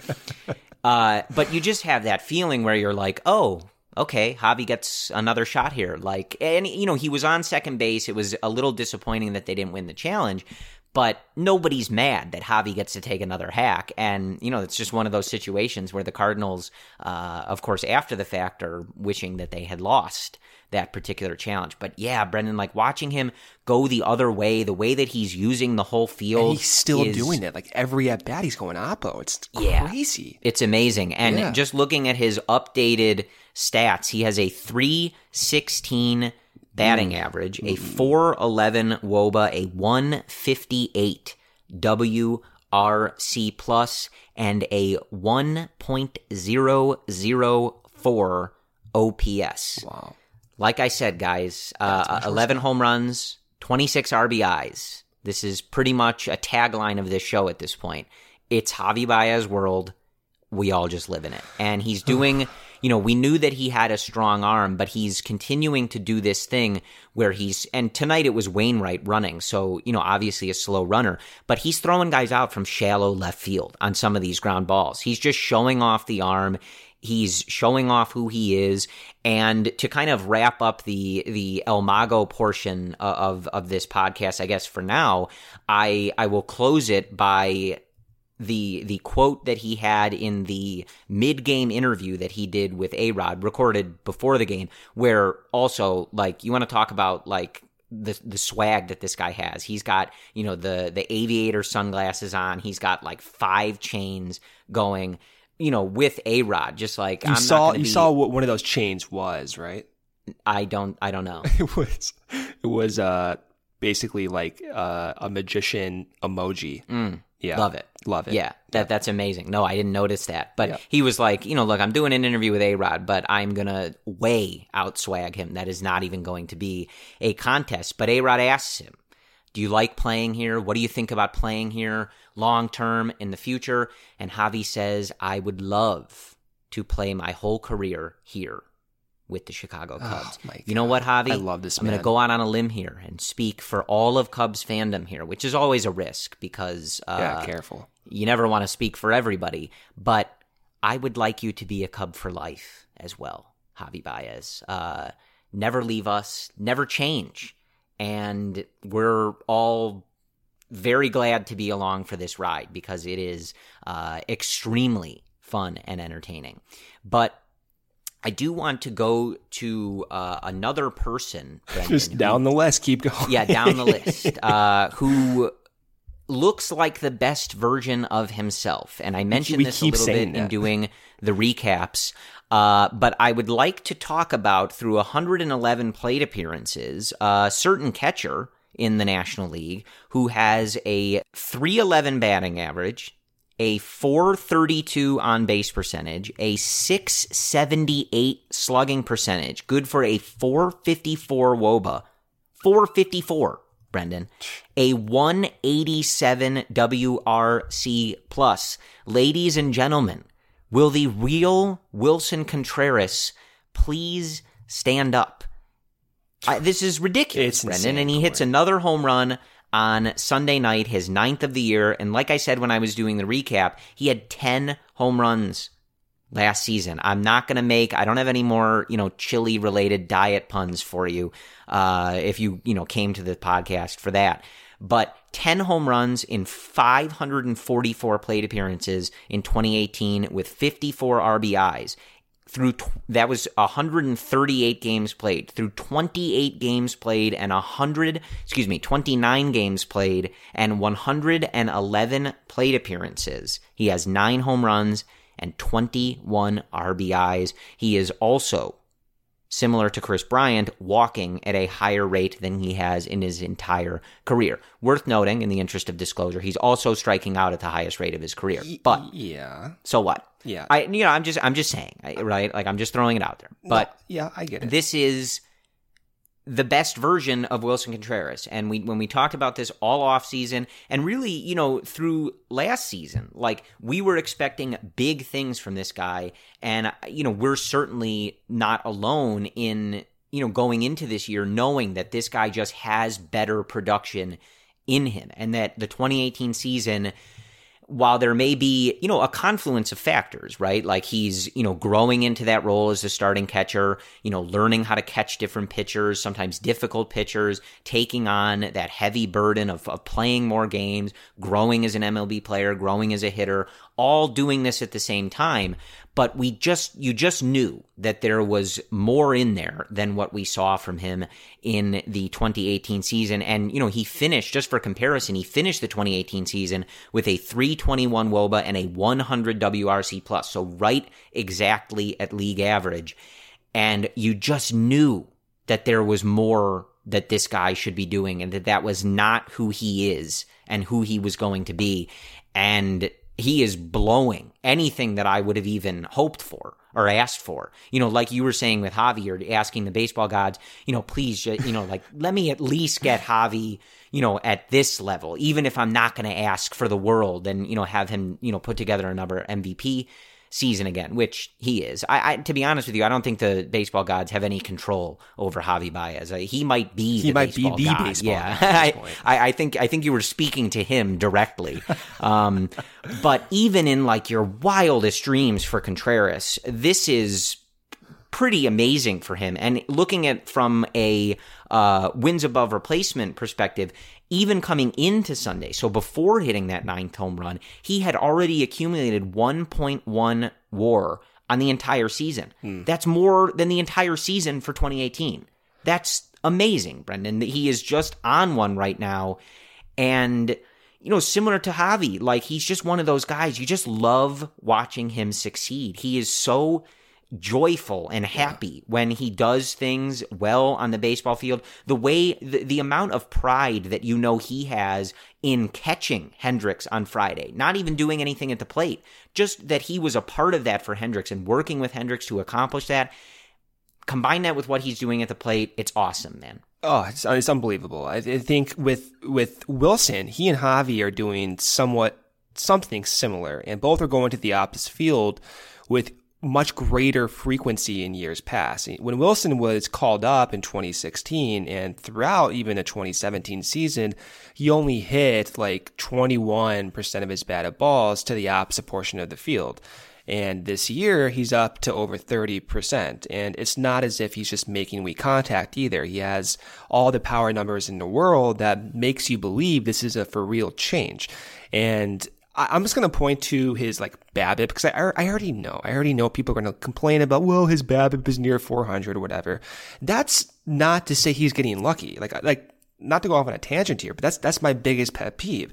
uh, but you just have that feeling where you're like, oh, okay, Javi gets another shot here. Like, and, you know, he was on second base. It was a little disappointing that they didn't win the challenge. But nobody's mad that Javi gets to take another hack. And, you know, it's just one of those situations where the Cardinals, uh, of course, after the fact, are wishing that they had lost that particular challenge. But yeah, Brendan, like watching him go the other way, the way that he's using the whole field. And he's still is, doing it. Like every at bat, he's going oppo. It's yeah, crazy. It's amazing. And Yeah. just looking at his updated stats, he has a three sixteen batting average, a four eleven W O B A, a one fifty-eight W R C plus, and a one point zero zero four O P S. Wow. Like I said, guys, uh, eleven home runs, twenty-six R B Is. This is pretty much a tagline of this show at this point. It's Javi Baez world. We all just live in it. And he's doing, you know, we knew that he had a strong arm, but he's continuing to do this thing where he's, and tonight it was Wainwright running. So, you know, obviously a slow runner, but he's throwing guys out from shallow left field on some of these ground balls. He's just showing off the arm. He's showing off who he is. And to kind of wrap up the the El Mago portion of, of this podcast, I guess for now, I I will close it by the the quote that he had in the mid-game interview that he did with A-Rod, recorded before the game, where also, like, you want to talk about, like, the the swag that this guy has. He's got, you know, the the aviator sunglasses on. He's got, like, five chains going, you know, with A-Rod, just like, You I'm saw not gonna you be, saw what one of those chains was, right? I don't I don't know. It was it was uh basically like uh, a magician emoji. Mm, Yeah. love it. Love it. Yeah, that that's amazing. No, I didn't notice that. But Yeah. he was like, you know, look, I'm doing an interview with A-Rod, but I'm going to way outswag him. That is not even going to be a contest. But A-Rod asks him, do you like playing here? What do you think about playing here long term in the future? And Javi says, I would love to play my whole career here with the Chicago Cubs. Oh, my you know what, Javi? I love this I'm going man. to go out on a limb here and speak for all of Cubs fandom here, which is always a risk because uh, Yeah, careful. you never want to speak for everybody. But I would like you to be a Cub for life as well, Javi Baez. Uh, never leave us, never change. And we're all very glad to be along for this ride because it is uh, extremely fun and entertaining. But I do want to go to uh, another person, Brendan, Just who- down the list. Keep going. yeah, down the list, uh, who looks like the best version of himself. And I mentioned we this a little bit that. in doing the recaps. Uh, but I would like to talk about, through one hundred eleven plate appearances, a certain catcher in the National League who has a three eleven batting average, a four thirty-two on-base percentage, a six seventy-eight slugging percentage, good for a four fifty-four W O B A. four fifty-four, Brendan. A one eighty-seven W R C plus. Ladies and gentlemen, will the real Willson Contreras please stand up? I, this is ridiculous, It's Brendan. insane, And he hits Corey. another home run on Sunday night, his ninth of the year. And like I said when I was doing the recap, he had ten home runs last season. I'm not going to make, I don't have any more, you know, chili-related diet puns for you uh, if you, you know, came to the podcast for that. But ten home runs in five hundred forty-four plate appearances in twenty eighteen with fifty-four R B Is. Through tw- that was one hundred thirty-eight games played. Through twenty-eight games played and one hundred, excuse me, twenty-nine games played and one hundred eleven plate appearances. He has nine home runs and twenty-one R B Is. He is also, similar to Chris Bryant, walking at a higher rate than he has in his entire career. Worth noting, in the interest of disclosure, he's also striking out at the highest rate of his career. But yeah, so what? Yeah, I you know I'm just I'm just saying, right? Like I'm just throwing it out there. But no, yeah, I get it. This is the best version of Willson Contreras. And we when we talked about this all off season and really, you know, through last season, like we were expecting big things from this guy. And, you know, we're certainly not alone in, you know, going into this year knowing that this guy just has better production in him and that the twenty eighteen season, while there may be, you know, a confluence of factors, right? Like he's, you know, growing into that role as a starting catcher, you know, learning how to catch different pitchers, sometimes difficult pitchers, taking on that heavy burden of, of playing more games, growing as an M L B player, growing as a hitter, all doing this at the same time. But we just, you just knew that there was more in there than what we saw from him in the twenty eighteen season. And, you know, he finished, just for comparison, he finished the twenty eighteen season with a three twenty-one W O B A and a one hundred W R C plus. So right exactly at league average. And you just knew that there was more that this guy should be doing and that that was not who he is and who he was going to be. And he is blowing anything that I would have even hoped for or asked for. You know, like you were saying with Javi, or asking the baseball gods, you know, please, you know, like, let me at least get Javi, you know, at this level, even if I'm not going to ask for the world and, you know, have him, you know, put together another M V P season again, which he is. I, I to be honest with you, I don't think the baseball gods have any control over Javi Baez. Uh, he might be he the might baseball be the god. baseball yeah. god at this point. I, I think I think you were speaking to him directly. um, but even in like your wildest dreams for Contreras, this is pretty amazing for him. And looking at from a uh, wins above replacement perspective, even coming into Sunday, so before hitting that ninth home run, he had already accumulated one point one WAR on the entire season. Hmm. That's more than the entire season for twenty eighteen. That's amazing, Brendan. He is just on one right now. And, you know, similar to Javi, like he's just one of those guys, you just love watching him succeed. He is so joyful and happy yeah. when he does things well on the baseball field. The way, the, the amount of pride that you know he has in catching Hendricks on Friday, not even doing anything at the plate, just that he was a part of that for Hendricks and working with Hendricks to accomplish that. Combine that with what he's doing at the plate, it's awesome, man. Oh, it's, it's unbelievable. I, I think with with Willson, he and Javi are doing somewhat something similar, and both are going to the opposite field with much greater frequency in years past. When Willson was called up in twenty sixteen and throughout even the twenty seventeen season, he only hit like twenty-one percent of his batted balls to the opposite portion of the field. And this year, he's up to over thirty percent. And it's not as if he's just making weak contact either. He has all the power numbers in the world that makes you believe this is a for real change. And I'm just going to point to his like BABIP because I, I already know. I already know people are going to complain about, well, his BABIP is near four hundred or whatever. That's not to say he's getting lucky. Like, like not to go off on a tangent here, but that's that's my biggest pet peeve.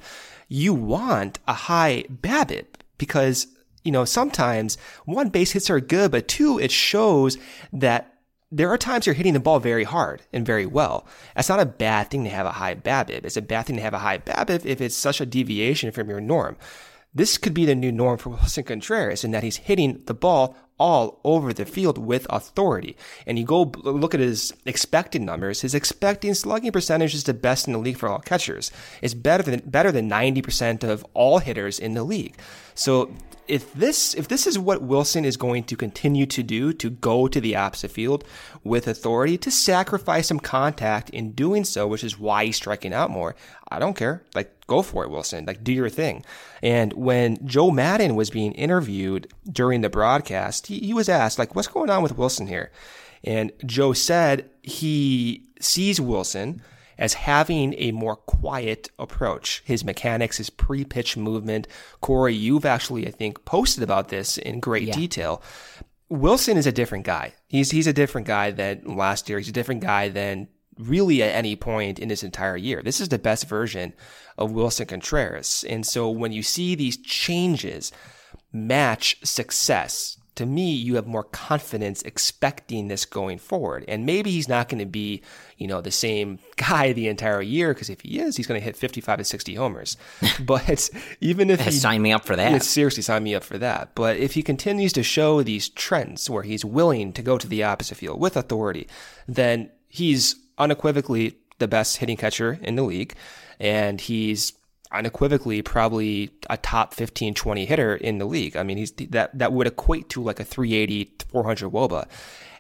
you want a high BABIP because, you know, sometimes one, base hits are good, but two, it shows that there are times you're hitting the ball very hard and very well. That's not a bad thing to have a high BABIP. It's a bad thing to have a high BABIP if it's such a deviation from your norm. This could be the new norm for Willson Contreras in that he's hitting the ball all over the field with authority. And you go look at his expected numbers. His expected slugging percentage is the best in the league for all catchers. It's better than better than ninety percent of all hitters in the league. So if this if this is what Willson is going to continue to do, to go to the opposite field with authority, to sacrifice some contact in doing so, which is why he's striking out more, I don't care. Like, go for it, Willson. Like, do your thing. And when Joe Maddon was being interviewed during the broadcast, he, he was asked, like, what's going on with Willson here? And Joe said he sees Willson as having a more quiet approach. His mechanics, his pre-pitch movement. Corey, you've actually, I think, posted about this in great yeah. detail. Willson is a different guy. He's he's a different guy than last year. He's a different guy than really at any point in this entire year. This is the best version of Willson Contreras. And so when you see these changes match success, to me, you have more confidence expecting this going forward. And maybe he's not going to be, you know, the same guy the entire year, because if he is, he's going to hit fifty-five to sixty homers. But even if he... Sign me up for that. Yeah, seriously, sign me up for that. But if he continues to show these trends where he's willing to go to the opposite field with authority, then he's unequivocally the best hitting catcher in the league. And he's unequivocally probably a top fifteen, twenty hitter in the league. I mean, he's that, that would equate to like a three eighty, four hundred W O B A.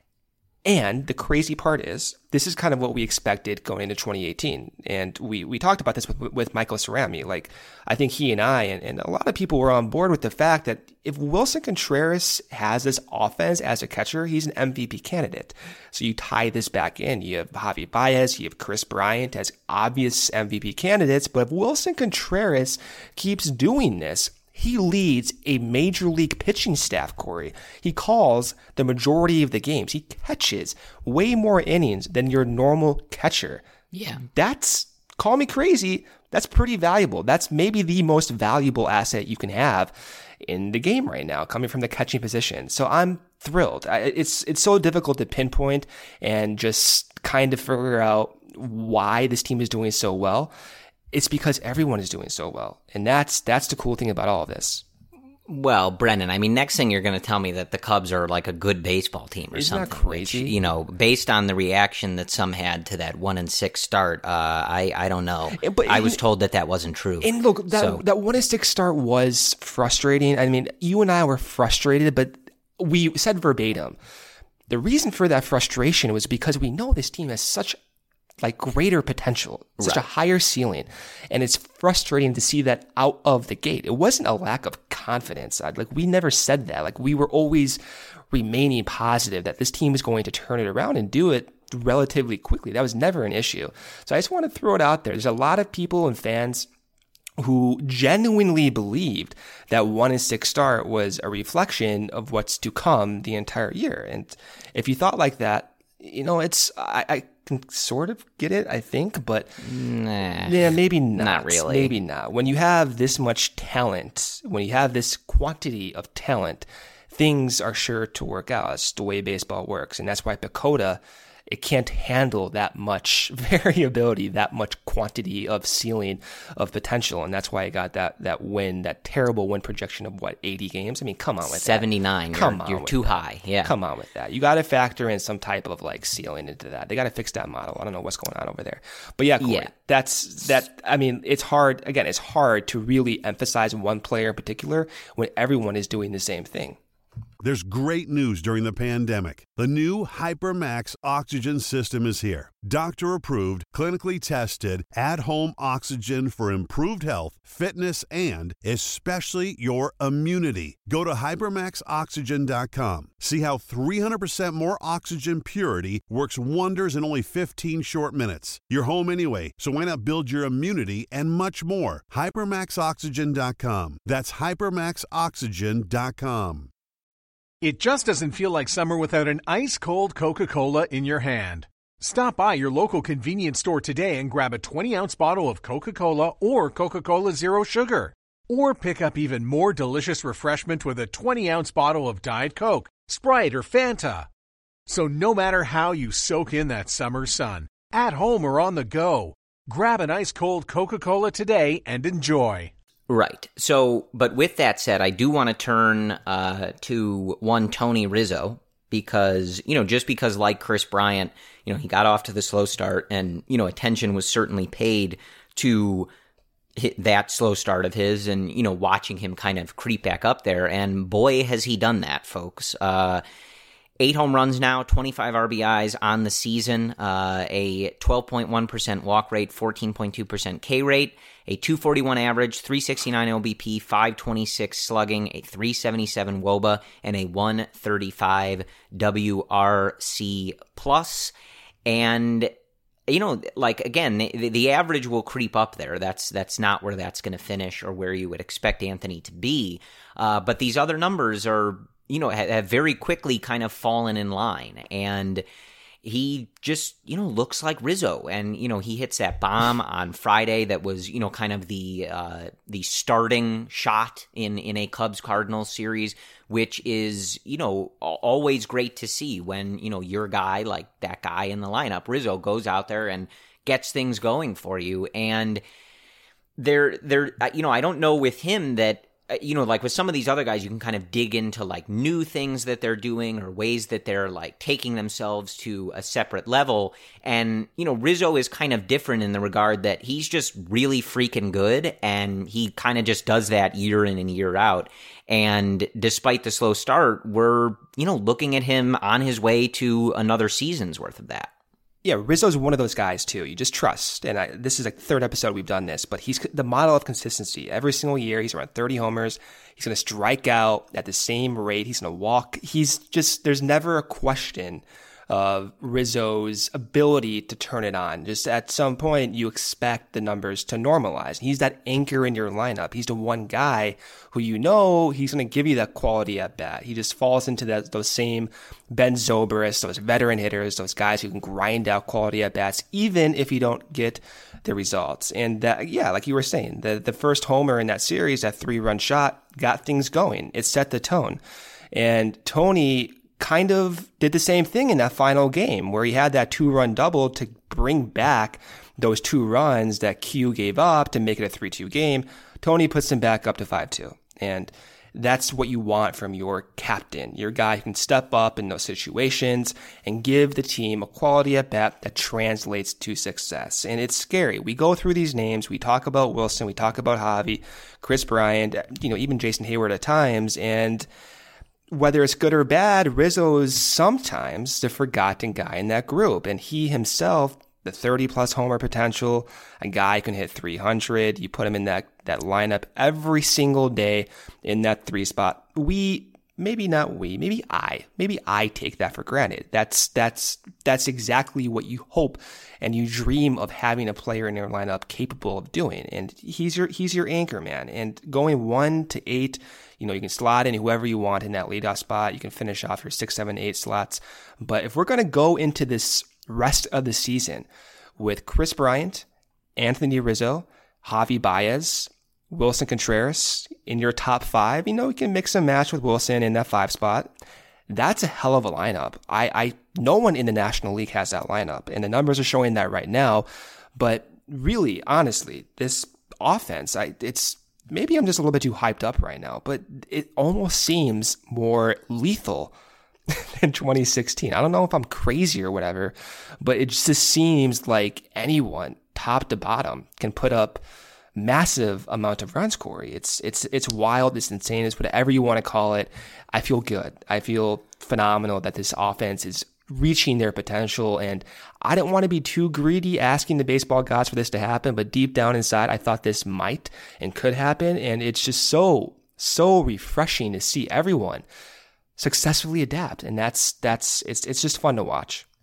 And the crazy part is, this is kind of what we expected going into twenty eighteen. And we, we talked about this with, with Michael Cerami. Like, I think he and I, and, and a lot of people were on board with the fact that if Willson Contreras has this offense as a catcher, he's an M V P candidate. So you tie this back in. You have Javi Baez, you have Chris Bryant as obvious M V P candidates. But if Willson Contreras keeps doing this, he leads a major league pitching staff, Corey. He calls the majority of the games. He catches way more innings than your normal catcher. Yeah. That's, call me crazy, that's pretty valuable. That's maybe the most valuable asset you can have in the game right now, coming from the catching position. So I'm thrilled. I, it's it's so difficult to pinpoint and just kind of figure out why this team is doing so well. It's because everyone is doing so well. And that's that's the cool thing about all of this. Well, Brendan, I mean, next thing you're going to tell me that the Cubs are like a good baseball team or Isn't something. Isn't that crazy? Which, you know, based on the reaction that some had to that one and six start, uh, I I don't know. But I was told that that wasn't true. And look, that so. that one and six start was frustrating. I mean, you and I were frustrated, but we said verbatim, the reason for that frustration was because we know this team has such like greater potential, such right. a higher ceiling. And it's frustrating to see that out of the gate. It wasn't a lack of confidence. Like, we never said that. Like, we were always remaining positive that this team is going to turn it around and do it relatively quickly. That was never an issue. So I just want to throw it out there. There's a lot of people and fans who genuinely believed that one and six start was a reflection of what's to come the entire year. And if you thought like that, you know, it's, I, I can sort of get it, I think, but nah, yeah, maybe not. Not really. Maybe not. When you have this much talent, when you have this quantity of talent, things are sure to work out. It's the way baseball works. And that's why PECOTA, it can't handle that much variability, that much quantity of ceiling of potential. And that's why it got that that win, that terrible win projection of what, eighty games? I mean, come on with seventy-nine. that. seventy-nine. Come you're, on. You're too that. high. Yeah. Come on with that. You got to factor in some type of like ceiling into that. They got to fix that model. I don't know what's going on over there. But yeah, Corey, yeah. that's that. I mean, it's hard. Again, it's hard to really emphasize one player in particular when everyone is doing the same thing. There's great news during the pandemic. The new HyperMax oxygen system is here. Doctor-approved, clinically tested, at-home oxygen for improved health, fitness, and especially your immunity. Go to hypermax oxygen dot com. See how three hundred percent more oxygen purity works wonders in only fifteen short minutes. You're home anyway, so why not build your immunity and much more? hypermax oxygen dot com. That's hypermax oxygen dot com. It just doesn't feel like summer without an ice-cold Coca-Cola in your hand. Stop by your local convenience store today and grab a twenty-ounce bottle of Coca-Cola or Coca-Cola Zero Sugar. Or pick up even more delicious refreshment with a twenty-ounce bottle of Diet Coke, Sprite, or Fanta. So no matter how you soak in that summer sun, at home or on the go, grab an ice-cold Coca-Cola today and enjoy. Right. So, but with that said, I do want to turn uh, to one Tony Rizzo because, you know, just because like Kris Bryant, you know, he got off to the slow start and, you know, attention was certainly paid to hit that slow start of his and, you know, watching him kind of creep back up there. And boy, has he done that, folks. Uh, eight home runs now, twenty-five R B Is on the season, uh, a twelve point one percent walk rate, fourteen point two percent K rate, a two forty-one average, three sixty-nine O B P, five twenty-six slugging, a three seventy-seven W O B A, and a one thirty-five W R C plus. And, you know, like, again, the, the average will creep up there. That's that's not where that's going to finish or where you would expect Anthony to be. Uh, but these other numbers are, you know, have, have very quickly kind of fallen in line. And he just, you know, looks like Rizzo. And, you know, he hits that bomb on Friday that was, you know, kind of the uh, the starting shot in, in a Cubs-Cardinals series, which is, you know, always great to see when, you know, your guy, like that guy in the lineup, Rizzo, goes out there and gets things going for you. And there, there, you know, I don't know with him that, you know, like with some of these other guys, you can kind of dig into like new things that they're doing or ways that they're like taking themselves to a separate level. And, you know, Rizzo is kind of different in the regard that he's just really freaking good. And he kind of just does that year in and year out. And despite the slow start, we're, you know, looking at him on his way to another season's worth of that. Yeah, Rizzo's one of those guys, too. You just trust. And I, this is like the third episode we've done this, but he's the model of consistency. Every single year, he's around thirty homers. He's going to strike out at the same rate. He's going to walk. He's just, there's never a question of Rizzo's ability to turn it on. Just at some point, you expect the numbers to normalize. He's that anchor in your lineup. He's the one guy who you know he's going to give you that quality at bat. He just falls into that those same Ben Zobrist, those veteran hitters, those guys who can grind out quality at bats, even if you don't get the results. And that, yeah, like you were saying, the the first homer in that series, that three run shot, got things going. It set the tone. And Tony kind of did the same thing in that final game where he had that two-run double to bring back those two runs that Q gave up to make it a three two game. Tony puts them back up to five two. And that's what you want from your captain, your guy who can step up in those situations and give the team a quality at bat that translates to success. And it's scary. We go through these names. We talk about Wilson. We talk about Javi, Kris Bryant, you know, even Jason Hayward at times. And whether it's good or bad, Rizzo is sometimes the forgotten guy in that group. And he himself, the thirty-plus homer potential, a guy who can hit three hundred. You put him in that, that lineup every single day in that three spot. We, maybe not we, maybe I, maybe I take that for granted. That's, that's, that's exactly what you hope and you dream of having a player in your lineup capable of doing. And he's your, he's your anchor man. And going one to eight, you know, you can slot in whoever you want in that leadoff spot. You can finish off your six, seven, eight slots. But if we're going to go into this rest of the season with Kris Bryant, Anthony Rizzo, Javi Baez, Wilson Contreras in your top five, you know, you can mix and match with Wilson in that five spot. That's a hell of a lineup. I, I, no one in the National League has that lineup, and the numbers are showing that right now. But really, honestly, this offense, I, it's, maybe I'm just a little bit too hyped up right now, but it almost seems more lethal than twenty sixteen. I don't know if I'm crazy or whatever, but it just seems like anyone, top to bottom, can put up massive amount of runs, Corey. It's it's it's wild, it's insane, it's whatever you want to call it. I feel good. I feel phenomenal that this offense is reaching their potential, and I didn't want to be too greedy asking the baseball gods for this to happen, but deep down inside, I thought this might and could happen, and it's just so, so refreshing to see everyone successfully adapt, and that's, that's, it's, it's just fun to watch.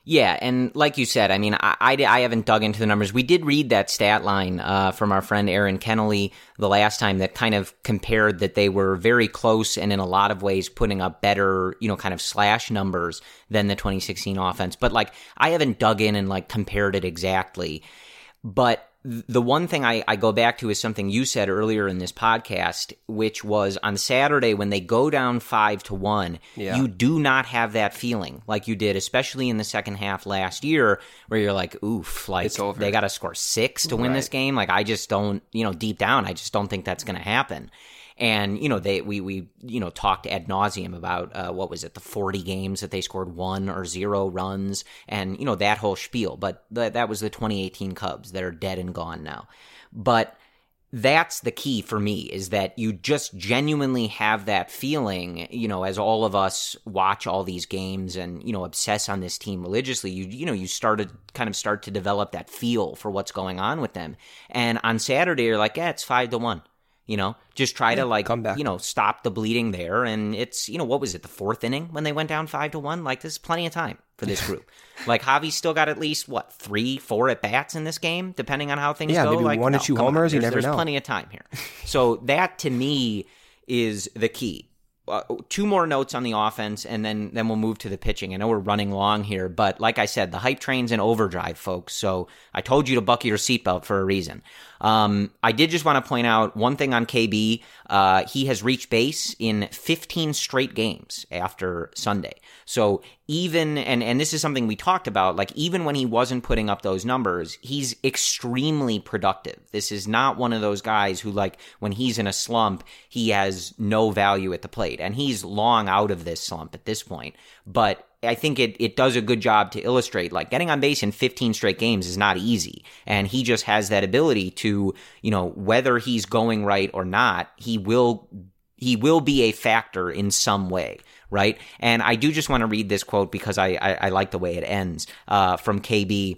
Yeah, and like you said, I mean, I, I, I haven't dug into the numbers. We did read that stat line uh, from our friend Aaron Kennelly the last time that kind of compared that they were very close and in a lot of ways putting up better, you know, kind of slash numbers than the twenty sixteen offense. But, like, I haven't dug in and, like, compared it exactly. But the one thing I, I go back to is something you said earlier in this podcast, which was on Saturday when they go down five to one, yeah. you do not have that feeling like you did, especially in the second half last year, where you're like, oof, like they got to score six to win right. this game. Like I just don't, you know, deep down, I just don't think that's going to happen. And, you know, they we, we you know, talked ad nauseum about, uh, what was it, the forty games that they scored one or zero runs and, you know, that whole spiel. But the, that was the twenty eighteen Cubs that are dead and gone now. But that's the key for me, is that you just genuinely have that feeling, you know, as all of us watch all these games and, you know, obsess on this team religiously, you you know, you started kind of start to develop that feel for what's going on with them. And on Saturday, you're like, yeah, it's five to one. You know, just try yeah, to like, you know, stop the bleeding there. And it's, you know, what was it, the fourth inning when they went down five to one? Like, this is plenty of time for this group. Like, Javi's still got at least, what, three, four at bats in this game, depending on how things yeah, go. Maybe like, one no, or two homers. On. You There's, never there's know. There's plenty of time here. So that to me is the key. Uh, two more notes on the offense, and then, then we'll move to the pitching. I know we're running long here, but like I said, the hype train's in overdrive, folks. So I told you to buckle your seatbelt for a reason. Um, I did just want to point out one thing on K B. Uh, he has reached base in fifteen straight games after Sunday. So even, and, and this is something we talked about, like even when he wasn't putting up those numbers, he's extremely productive. This is not one of those guys who, like, when he's in a slump, he has no value at the plate. And he's long out of this slump at this point. But I think it, it does a good job to illustrate, like, getting on base in fifteen straight games is not easy. And he just has that ability to, you know, whether he's going right or not, he will he will be a factor in some way, right? And I do just want to read this quote because I, I, I like the way it ends, uh, from K B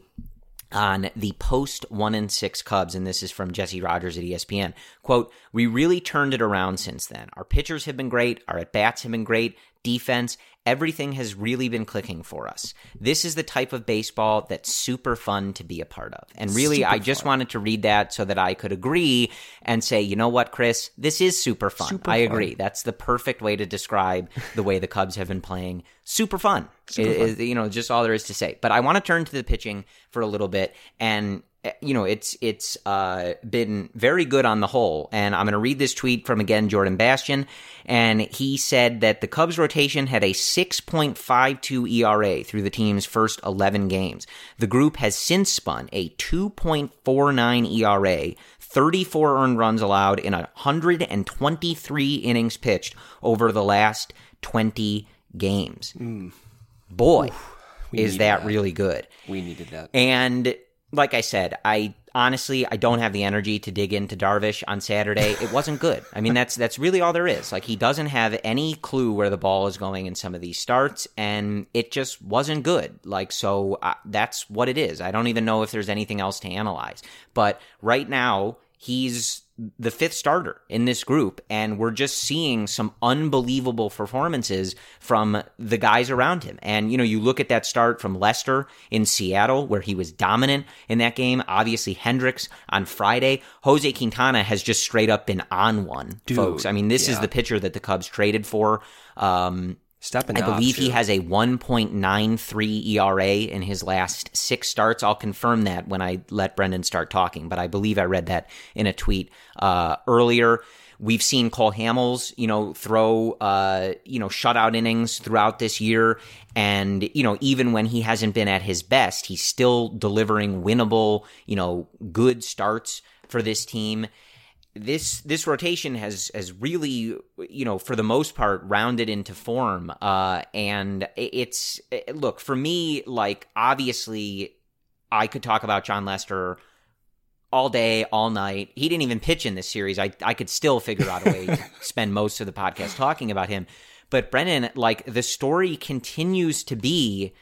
on the post one and six Cubs, and this is from Jesse Rogers at E S P N. Quote, "We really turned it around since then. Our pitchers have been great. Our at-bats have been great. Defense, everything has really been clicking for us. This is the type of baseball that's super fun to be a part of." And really, super I just fun. wanted to read that so that I could agree and say, you know what, Chris, this is super fun. Super I agree. Fun. That's the perfect way to describe the way the Cubs have been playing. Super fun. Super it, fun. It, you know, just all there is to say. But I want to turn to the pitching for a little bit, and you know, it's it's uh, been very good on the whole. And I'm going to read this tweet from, again, Jordan Bastian. And he said that the Cubs rotation had a six point five two E R A through the team's first eleven games. The group has since spun a two point four nine E R A, thirty-four earned runs allowed in one hundred twenty-three innings pitched over the last twenty games. Mm. Boy, Oof, is that, that really good. We needed that. And like I said, I honestly, I don't have the energy to dig into Darvish on Saturday. It wasn't good. I mean, that's that's really all there is. Like, he doesn't have any clue where the ball is going in some of these starts, and it just wasn't good. Like, so uh, that's what it is. I don't even know if there's anything else to analyze. But right now, he's the fifth starter in this group, and we're just seeing some unbelievable performances from the guys around him. And, you know, you look at that start from Lester in Seattle, where he was dominant in that game. Obviously, Hendricks on Friday. Jose Quintana has just straight up been on one, Dude, folks. I mean, this yeah. is the pitcher that the Cubs traded for. Um, Stepping I up, believe too. he has a one point nine three E R A in his last six starts. I'll confirm that when I let Brendan start talking, but I believe I read that in a tweet uh, earlier. We've seen Cole Hamels, you know, throw, uh, you know, shutout innings throughout this year. And, you know, even when he hasn't been at his best, he's still delivering winnable, you know, good starts for this team. This this rotation has has really, you know, for the most part, rounded into form. Uh, and it's, look, for me, like, obviously, I could talk about Jon Lester all day, all night. He didn't even pitch in this series. I, I could still figure out a way to spend most of the podcast talking about him. But Brennan, like, the story continues to be,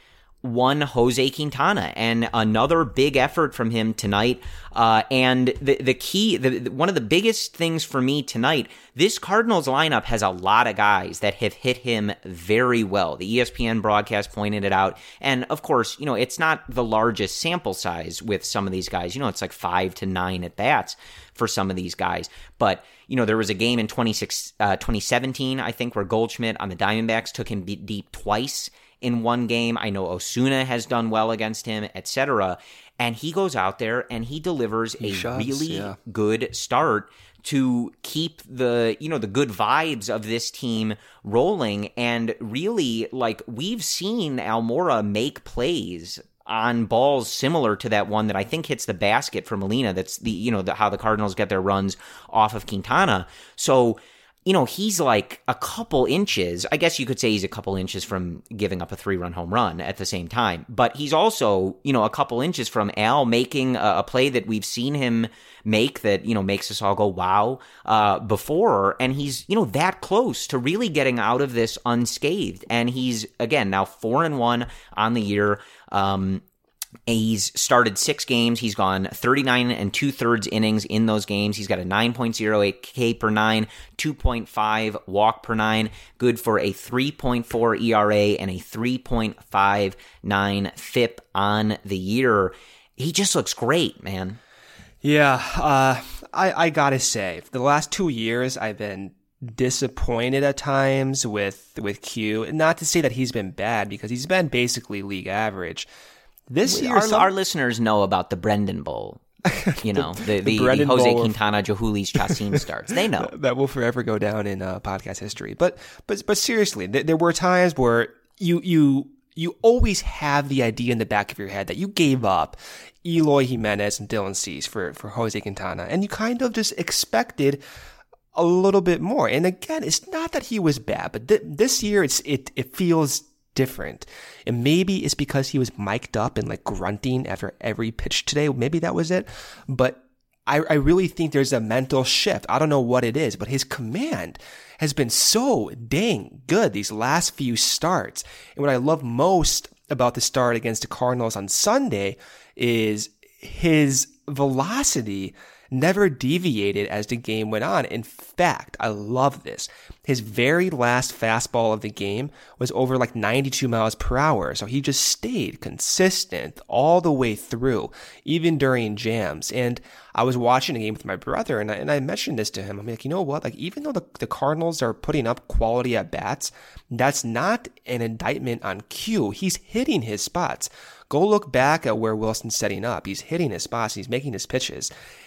one Jose Quintana, and another big effort from him tonight. Uh, and the the key, the, the, one of the biggest things for me tonight, this Cardinals lineup has a lot of guys that have hit him very well. The E S P N broadcast pointed it out. And of course, you know, it's not the largest sample size with some of these guys. You know, it's like five to nine at bats for some of these guys. But, you know, there was a game in twenty-six, uh, twenty seventeen, I think, where Goldschmidt on the Diamondbacks took him deep twice in one game. I know Osuna has done well against him, et cetera. And he goes out there and he delivers he a shots, really yeah. good start to keep the, you know, the good vibes of this team rolling. And really, like, we've seen Almora make plays on balls similar to that one that I think hits the basket for Molina. That's the, you know, the, how the Cardinals get their runs off of Quintana. So, you know, he's like a couple inches. I guess you could say he's a couple inches from giving up a three-run home run at the same time. But he's also, you know, a couple inches from Al making a, a play that we've seen him make that, you know, makes us all go, wow, uh, before. And he's, you know, that close to really getting out of this unscathed. And he's, again, now four and one on the year. Um, He's started six games. He's gone thirty-nine and two-thirds innings in those games. He's got a nine point oh eight K per nine, two point five walk per nine, good for a three point four E R A and a three point five nine F I P on the year. He just looks great, man. Yeah, uh, I, I gotta say, for the last two years, I've been disappointed at times with, with Q. Not to say that he's been bad, because he's been basically league average. This we, year, our, some... our listeners know about the Brendan Bowl, you know, the, the, the, the Jose Bowl Quintana, of... Jahulis Chacin starts. They know. That will forever go down in uh, podcast history. But but but seriously, th- there were times where you you you always have the idea in the back of your head that you gave up Eloy Jimenez and Dylan Cease for, for Jose Quintana, and you kind of just expected a little bit more. And again, it's not that he was bad, but th- this year it's it it feels different. And maybe it's because he was mic'd up and like grunting after every pitch today. Maybe that was it. But I, I really think there's a mental shift. I don't know what it is, but his command has been so dang good these last few starts. And what I love most about the start against the Cardinals on Sunday is his velocity never deviated as the game went on. In fact, I love this. His very last fastball of the game was over like ninety-two miles per hour. So he just stayed consistent all the way through, even during jams. And I was watching a game with my brother, and I, and I mentioned this to him. I'm like, you know what? Like, even though the, the Cardinals are putting up quality at bats, that's not an indictment on Q. He's hitting his spots. Go look back at where Wilson's setting up. He's hitting his spots. He's making his pitches.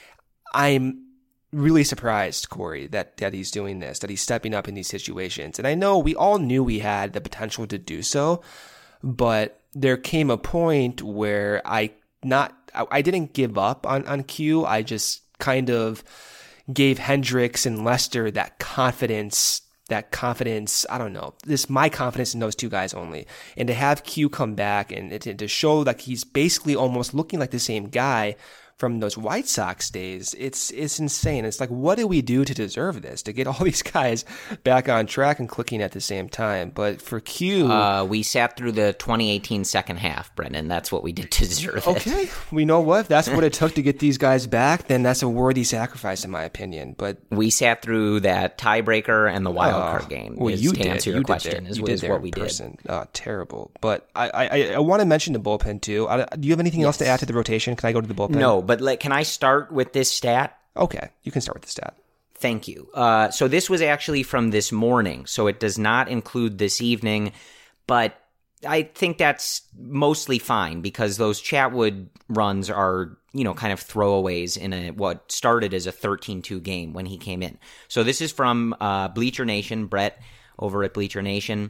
I'm really surprised, Corey, that, that he's doing this, that he's stepping up in these situations. And I know we all knew we had the potential to do so, but there came a point where I not I, I didn't give up on, on Q. I just kind of gave Hendricks and Lester that confidence, that confidence, I don't know, this my confidence in those two guys only. And to have Q come back and, and to show like he's basically almost looking like the same guy from those White Sox days, it's it's insane. It's like, what do we do to deserve this? To get all these guys back on track and clicking at the same time. But for Q... Uh, we sat through the twenty eighteen second half, Brendan. That's what we did to deserve it. Okay. We know what? If that's what it took to get these guys back, then that's a worthy sacrifice, in my opinion. But we sat through that tiebreaker and the wild card uh, game. Well, is, you to did. answer your you question, did is, you is did what we person. did. Uh, terrible. But I, I, I want to mention the bullpen, too. I, do you have anything yes. else to add to the rotation? Can I go to the bullpen? No, but like, can I start with this stat? Okay, you can start with the stat. Thank you. Uh, so this was actually from this morning, so it does not include this evening, but I think that's mostly fine because those Chatwood runs are, you know, kind of throwaways in a what started as a thirteen two game when he came in. So this is from uh, Bleacher Nation, Brett over at Bleacher Nation,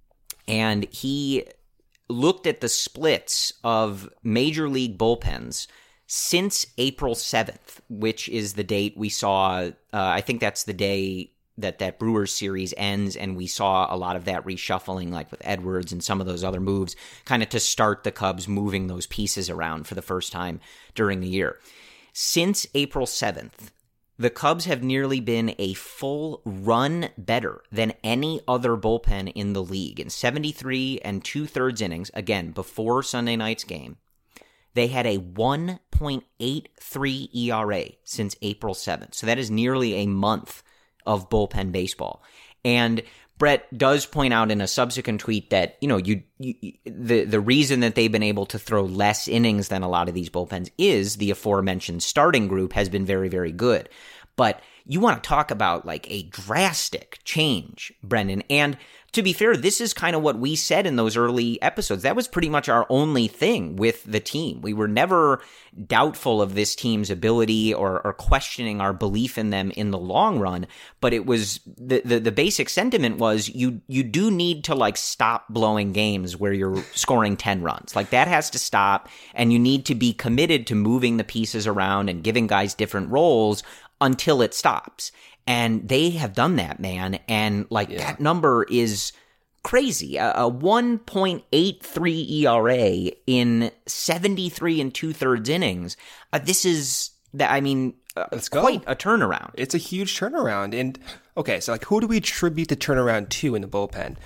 and he looked at the splits of Major League bullpens since April seventh, which is the date we saw, uh, I think that's the day that that Brewers series ends, and we saw a lot of that reshuffling, like with Edwards and some of those other moves, kind of to start the Cubs moving those pieces around for the first time during the year. Since April seventh, the Cubs have nearly been a full run better than any other bullpen in the league. In seventy-three and two-thirds innings, again, before Sunday night's game, they had a one point eight three E R A since April seventh. So that is nearly a month of bullpen baseball. And Brett does point out in a subsequent tweet that, you know, you, you the the reason that they've been able to throw less innings than a lot of these bullpens is the aforementioned starting group has been very, very good. But you want to talk about like a drastic change, Brendan. And to be fair, this is kind of what we said in those early episodes. That was pretty much our only thing with the team. We were never doubtful of this team's ability or, or questioning our belief in them in the long run. But it was the, the, the basic sentiment was you, you do need to like stop blowing games where you're scoring ten runs. Like that has to stop. And you need to be committed to moving the pieces around and giving guys different roles until it stops. And they have done that, man. And like yeah. that number is crazy. A, a one point eight three E R A in seventy-three and two-thirds innings. Uh, this is, that. I mean, uh, Let's quite go. a turnaround. It's a huge turnaround. And okay, so like who do we attribute the turnaround to in the bullpen?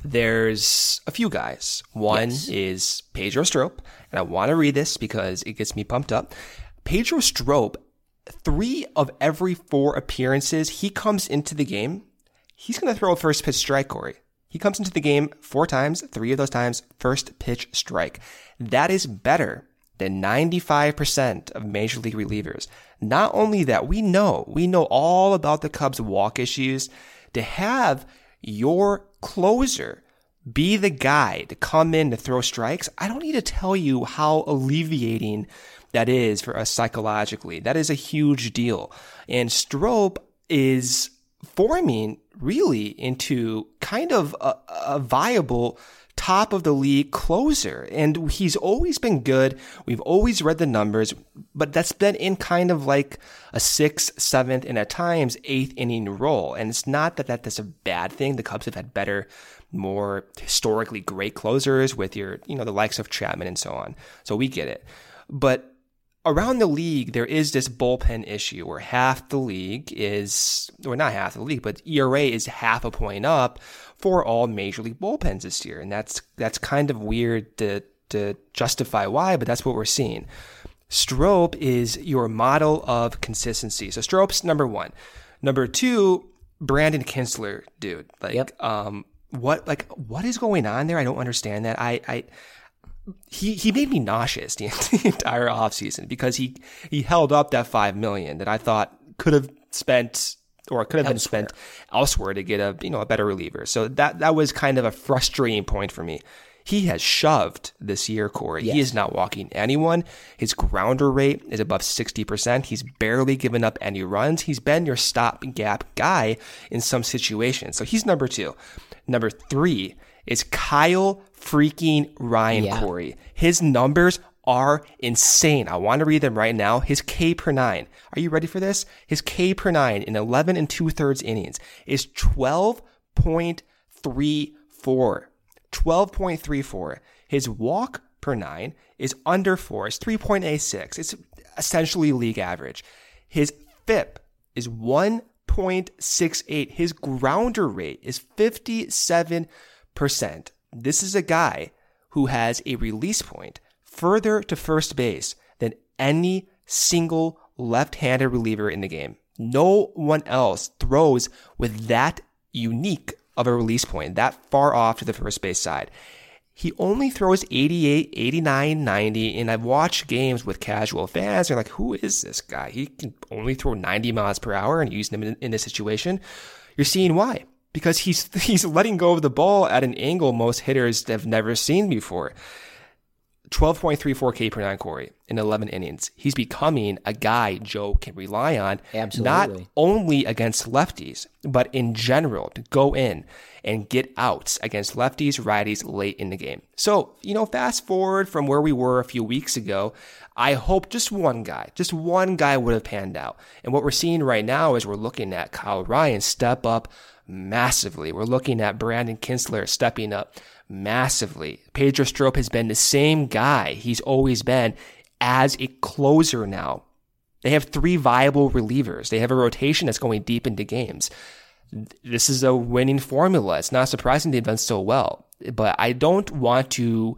There's a few guys. One yes. is Pedro Strop. And I want to read this because it gets me pumped up. Pedro Strop, three of every four appearances, he comes into the game, he's going to throw a first pitch strike, Corey. He comes into the game four times, three of those times, first pitch strike. That is better than ninety-five percent of major league relievers. Not only that, we know, we know all about the Cubs' walk issues. To have your closer be the guy to come in to throw strikes, I don't need to tell you how alleviating that is for us psychologically. That is a huge deal. And Strop is forming really into kind of a, a viable top of the league closer. And he's always been good. We've always read the numbers, but that's been in kind of like a sixth, seventh, and at times eighth inning role. And it's not that, that that's a bad thing. The Cubs have had better, more historically great closers with your, you know, the likes of Chapman and so on. So we get it. But around the league, there is this bullpen issue where half the league is, or not half the league, but E R A is half a point up for all major league bullpens this year. And that's that's kind of weird to, to justify why, but that's what we're seeing. Strop is your model of consistency. So Strop's number one. Number two, Brandon Kintzler, dude. Like, yep. um, what, like, what is going on there? I don't understand that. I, I, He he made me nauseous the, the entire offseason because he, he held up that five million dollars that I thought could have spent or could have elsewhere. been spent elsewhere to get a you know a better reliever. So that that was kind of a frustrating point for me. He has shoved this year, Corey. Yes. He is not walking anyone. His grounder rate is above sixty percent. He's barely given up any runs. He's been your stopgap guy in some situations. So he's number two. Number three is Kyle freaking Ryan, yeah. Corey. His numbers are insane. I want to read them right now. His K per nine. Are you ready for this? His K per nine in eleven and two-thirds innings is twelve point three four. twelve point three four. His walk per nine is under four. It's three point eight six. It's essentially league average. His F I P is one point six eight. His grounder rate is fifty-seven percent. This is a guy who has a release point further to first base than any single left-handed reliever in the game. No one else throws with that unique of a release point, that far off to the first base side. He only throws eighty-eight, eighty-nine, ninety, and I've watched games with casual fans. They're like, who is this guy? He can only throw ninety miles per hour and using him in, in this situation. You're seeing why. Because he's he's letting go of the ball at an angle most hitters have never seen before. twelve point three four K per nine, Corey, in eleven innings. He's becoming a guy Joe can rely on. Absolutely. Not only against lefties, but in general to go in and get outs against lefties, righties late in the game. So, you know, fast forward from where we were a few weeks ago, I hope just one guy, just one guy would have panned out. And what we're seeing right now is we're looking at Kyle Ryan step up massively. We're looking at Brandon Kintzler stepping up massively. Pedro Strop has been the same guy he's always been as a closer now. They have three viable relievers. They have a rotation that's going deep into games. This is a winning formula. It's not surprising they've done so well. But I don't want to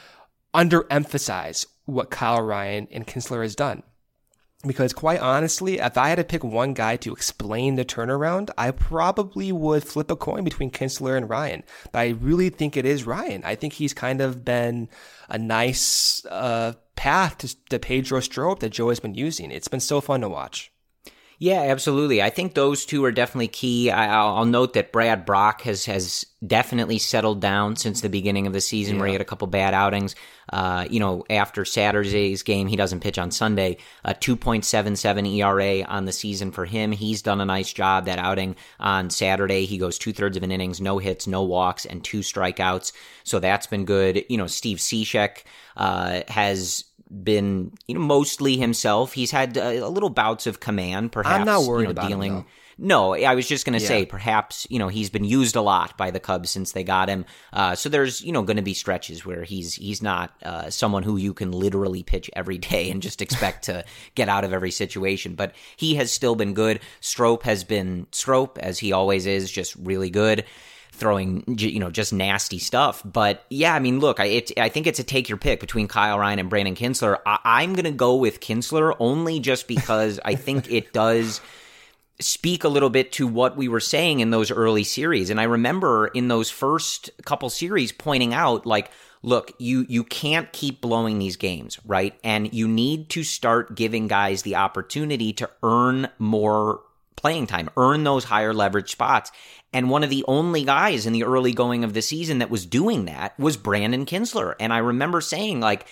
underemphasize what Kyle Ryan and Kinsler has done. Because quite honestly, if I had to pick one guy to explain the turnaround, I probably would flip a coin between Kinsler and Ryan. But I really think it is Ryan. I think he's kind of been a nice uh, path to the Pedro Strop that Joe has been using. It's been so fun to watch. Yeah, absolutely. I think those two are definitely key. I, I'll, I'll note that Brad Brock has has definitely settled down since the beginning of the season, yeah. where he had a couple bad outings. Uh, you know, after Saturday's game, he doesn't pitch on Sunday. A two point seven seven E R A on the season for him. He's done a nice job. That outing on Saturday, he goes two thirds of an innings, no hits, no walks, and two strikeouts. So that's been good. You know, Steve Cishek uh, has been, you know, mostly himself. He's had a, a little bouts of command, perhaps. I'm not worried you know, about dealing. him, No, I was just going to yeah. say, perhaps, you know, he's been used a lot by the Cubs since they got him. Uh, so there's, you know, going to be stretches where he's he's not uh, someone who you can literally pitch every day and just expect to get out of every situation. But he has still been good. Strop has been Strop, as he always is, just really good, throwing, you know, just nasty stuff. But yeah, I mean, look, I, it, I think it's a take your pick between Kyle Ryan and Brandon Kinsler. I, I'm going to go with Kinsler only just because I think it does speak a little bit to what we were saying in those early series. And I remember in those first couple series pointing out, like, look, you you can't keep blowing these games, right? And you need to start giving guys the opportunity to earn more playing time, earn those higher leverage spots. And one of the only guys in the early going of the season that was doing that was Brandon Kinsler. And I remember saying, like,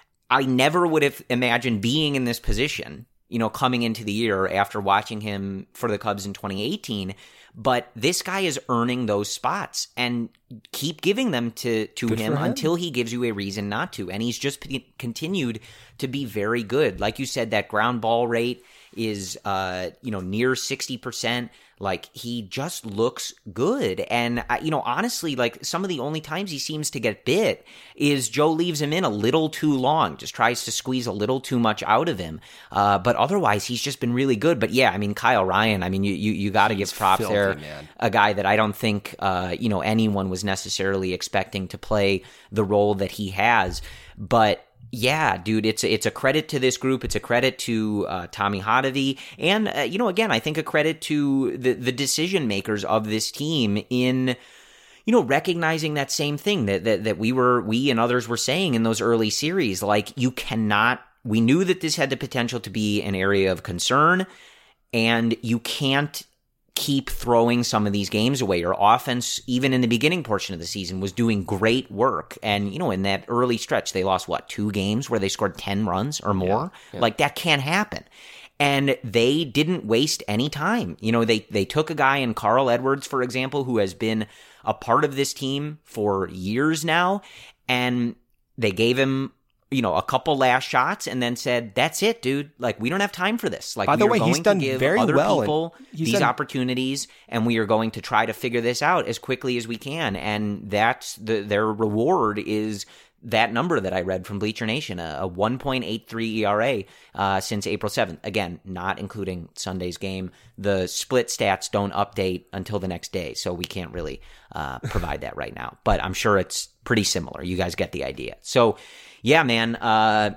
I never would have imagined being in this position, you know, coming into the year after watching him for the Cubs in twenty eighteen. But this guy is earning those spots, and keep giving them to, to him, him until he gives you a reason not to. And he's just p- continued to be very good. Like you said, that ground ball rate is, uh, you know, near sixty percent. Like, he just looks good. And, you know, honestly, like, some of the only times he seems to get bit is Joe leaves him in a little too long, just tries to squeeze a little too much out of him. Uh, but otherwise, he's just been really good. But yeah, I mean, Kyle Ryan, I mean, you you, you got to give props filthy, there. Man. A guy that I don't think, uh, you know, anyone was necessarily expecting to play the role that he has. But yeah, dude, it's it's a credit to this group. It's a credit to uh, Tommy Hotovy, and uh, you know, again, I think a credit to the the decision makers of this team in, you know, recognizing that same thing that that that we were we and others were saying in those early series. Like, you cannot. We knew that this had the potential to be an area of concern, and you can't keep throwing some of these games away. Your offense, even in the beginning portion of the season, was doing great work. And, you know, in that early stretch, they lost, what, two games where they scored ten runs or more? Yeah, yeah. Like, that can't happen. And they didn't waste any time. You know, they, they took a guy in Carl Edwards, for example, who has been a part of this team for years now, and they gave him, you know, a couple last shots and then said, that's it, dude. Like, we don't have time for this. Like, by the we are way, going he's done to give very other well people these done... opportunities, and we are going to try to figure this out as quickly as we can. And that's the, their reward is that number that I read from Bleacher Nation, a, a one point eight three E R A uh, since April seventh. Again, not including Sunday's game. The split stats don't update until the next day, so we can't really uh, provide that right now. But I'm sure it's pretty similar. You guys get the idea. So, yeah, man, uh,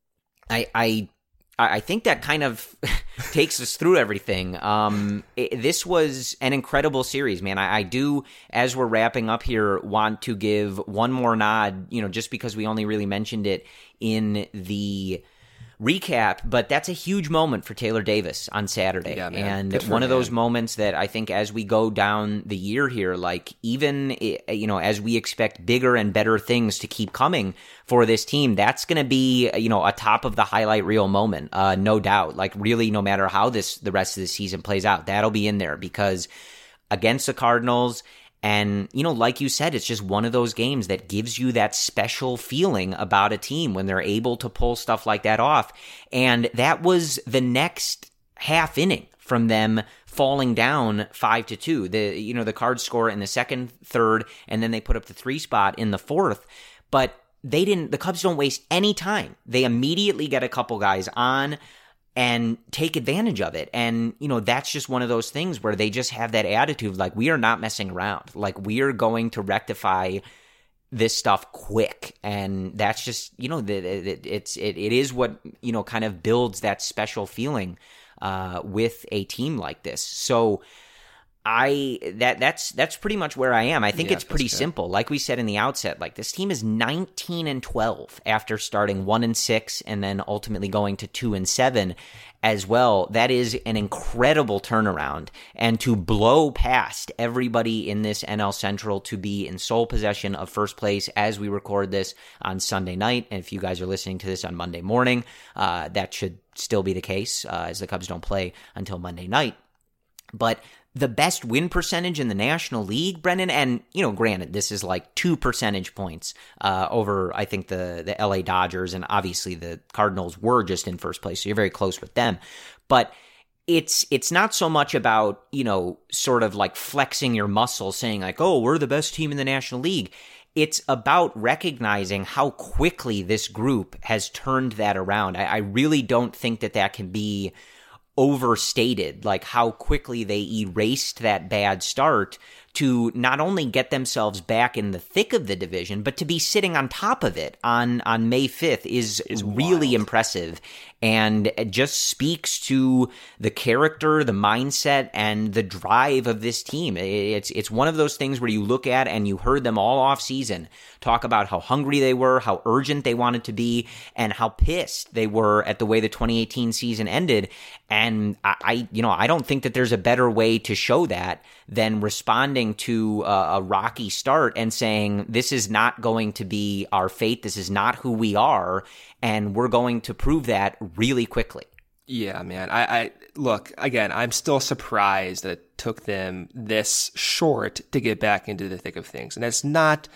I, I I think that kind of takes us through everything. Um, it, this was an incredible series, man. I, I do, as we're wrapping up here, want to give one more nod, you know, just because we only really mentioned it in the recap, but that's a huge moment for Taylor Davis on Saturday. Yeah, and one of those moments that I think as we go down the year here, like, even, you know, as we expect bigger and better things to keep coming for this team, that's going to be, you know, a top of the highlight reel moment, uh, no doubt. Like, really, no matter how this the rest of the season plays out, that'll be in there, because against the Cardinals, and, you know, like you said, it's just one of those games that gives you that special feeling about a team when they're able to pull stuff like that off. And that was the next half inning from them falling down five to two. The, you know, the Cards score in the second, third, and then they put up the three spot in the fourth. But they didn't, the Cubs don't waste any time. They immediately get a couple guys on. and take advantage of it. And, you know, that's just one of those things where they just have that attitude, like, we are not messing around. Like, we are going to rectify this stuff quick. And that's just, you know, it, it's, it, it is what, you know, kind of builds that special feeling uh, with a team like this. So I, that, that's, that's pretty much where I am. I think yeah, it's pretty simple. Like we said in the outset, like, this team is nineteen and twelve after starting one and six and then ultimately going to two and seven as well. That is an incredible turnaround. And to blow past everybody in this N L Central to be in sole possession of first place as we record this on Sunday night. And if you guys are listening to this on Monday morning, uh, that should still be the case, uh, as the Cubs don't play until Monday night. But the best win percentage in the National League, Brendan, and, you know, granted, this is like two percentage points uh, over, I think, the, the L A Dodgers, and obviously the Cardinals were just in first place, so you're very close with them. But it's it's not so much about, you know, sort of like flexing your muscle, saying like, oh, we're the best team in the National League. It's about recognizing how quickly this group has turned that around. I, I really don't think that that can be overstated, like how quickly they erased that bad start to not only get themselves back in the thick of the division, but to be sitting on top of it on, on May fifth is, is really wild. Impressive. And it just speaks to the character, the mindset, and the drive of this team. It's it's one of those things where you look at, and you heard them all off season talk about how hungry they were, how urgent they wanted to be, and how pissed they were at the way the twenty eighteen season ended. And I, I you know, I don't think that there's a better way to show that than responding to a, a rocky start and saying, this is not going to be our fate. This is not who we are. And we're going to prove that really quickly. Yeah, man. I, I look, again, I'm still surprised that it took them this short to get back into the thick of things. And that's not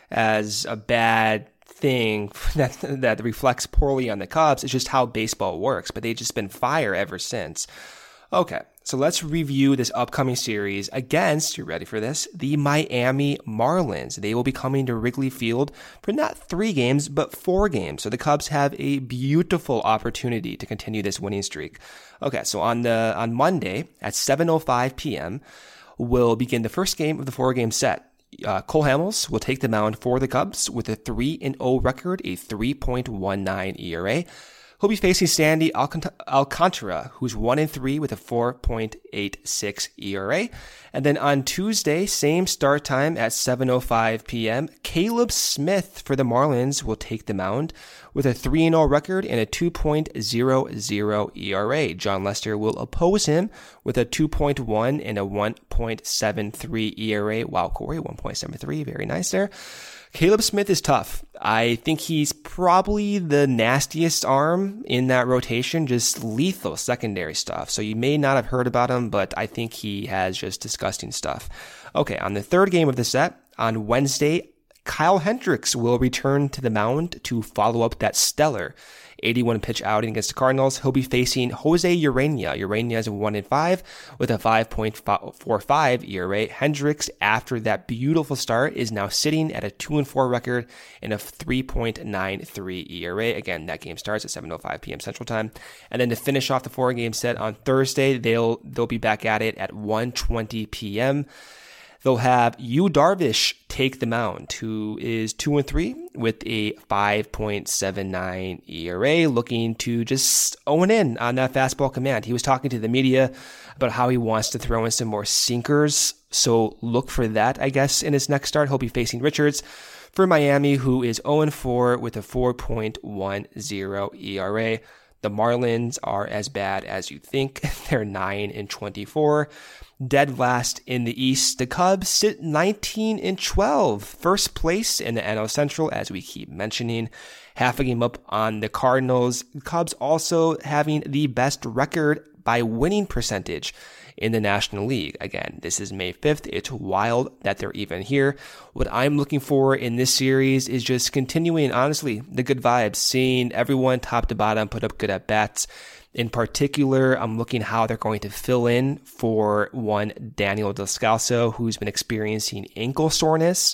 as a bad thing that that reflects poorly on the Cubs. It's just how baseball works. But they've just been fire ever since. Okay, so let's review this upcoming series against, you ready for this, the Miami Marlins. They will be coming to Wrigley Field for not three games, but four games. So the Cubs have a beautiful opportunity to continue this winning streak. Okay, so on the on Monday at seven oh five p.m., we'll begin the first game of the four-game set. Uh, Cole Hamels will take the mound for the Cubs with a three and oh record, a three point one nine E R A. He'll be facing Sandy Alcant- Alcantara, who's one and three with a four point eight six E R A. And then on Tuesday, same start time at seven oh five p.m., Caleb Smith for the Marlins will take the mound with a three and oh record and a two point oh oh E R A. John Lester will oppose him with a two point one and a one point seven three E R A. Wow, Corey, one point seven three. Very nice there. Caleb Smith is tough. I think he's probably the nastiest arm in that rotation, just lethal secondary stuff. So you may not have heard about him, but I think he has just disgusting stuff. Okay, on the third game of the set, on Wednesday, Kyle Hendricks will return to the mound to follow up that stellar eighty-one pitch outing against the Cardinals. He'll be facing Jose Urena. Urena is a one and five with a five point four five E R A. Hendricks, after that beautiful start, is now sitting at a two and four record and a three point nine three E R A. Again, that game starts at seven oh five p.m. Central Time. And then to finish off the four game set on Thursday, they'll they'll be back at it at one twenty p.m. They'll have Yu Darvish take the mound, who is two and three with a five point seven nine E R A, looking to just own in on that fastball command. He was talking to the media about how he wants to throw in some more sinkers, so look for that, I guess, in his next start. He'll be facing Richards for Miami, who is oh and four with a four point one oh E R A. The Marlins are as bad as you think. They're nine and twenty-four. Dead last in the East. The Cubs sit nineteen and twelve. First place in the N L Central, as we keep mentioning. Half a game up on the Cardinals. Cubs also having the best record by winning percentage in the National League. Again, this is May fifth. It's wild that they're even here. What I'm looking for in this series is just continuing, honestly, the good vibes, seeing everyone top to bottom put up good at-bats. In particular, I'm looking how they're going to fill in for one Daniel Descalso, who's been experiencing ankle soreness.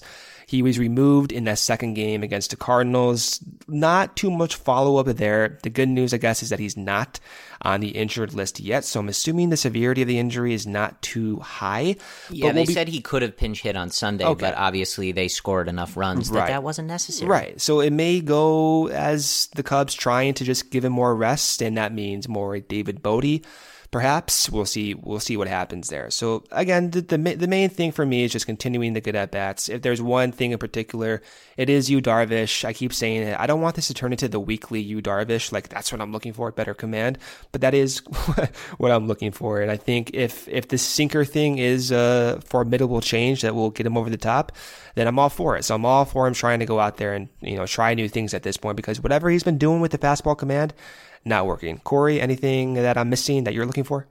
He was removed in that second game against the Cardinals. Not too much follow-up there. The good news, I guess, is that he's not on the injured list yet, so I'm assuming the severity of the injury is not too high. Yeah, but they we'll be... said he could have pinch hit on Sunday, okay. but obviously they scored enough runs that right. that wasn't necessary. Right, so it may go as the Cubs trying to just give him more rest, and that means more David Bote. Perhaps we'll see. We'll see what happens there. So again, the, the the main thing for me is just continuing the good at bats. If there's one thing in particular, it is Yu Darvish. I keep saying it. I don't want this to turn into the weekly Yu Darvish. Like that's what I'm looking for, better command. But that is what I'm looking for. And I think if if the sinker thing is a formidable change that will get him over the top, then I'm all for it. So I'm all for him trying to go out there and you know try new things at this point because whatever he's been doing with the fastball command. Not working. Corey, anything that I'm missing that you're looking for?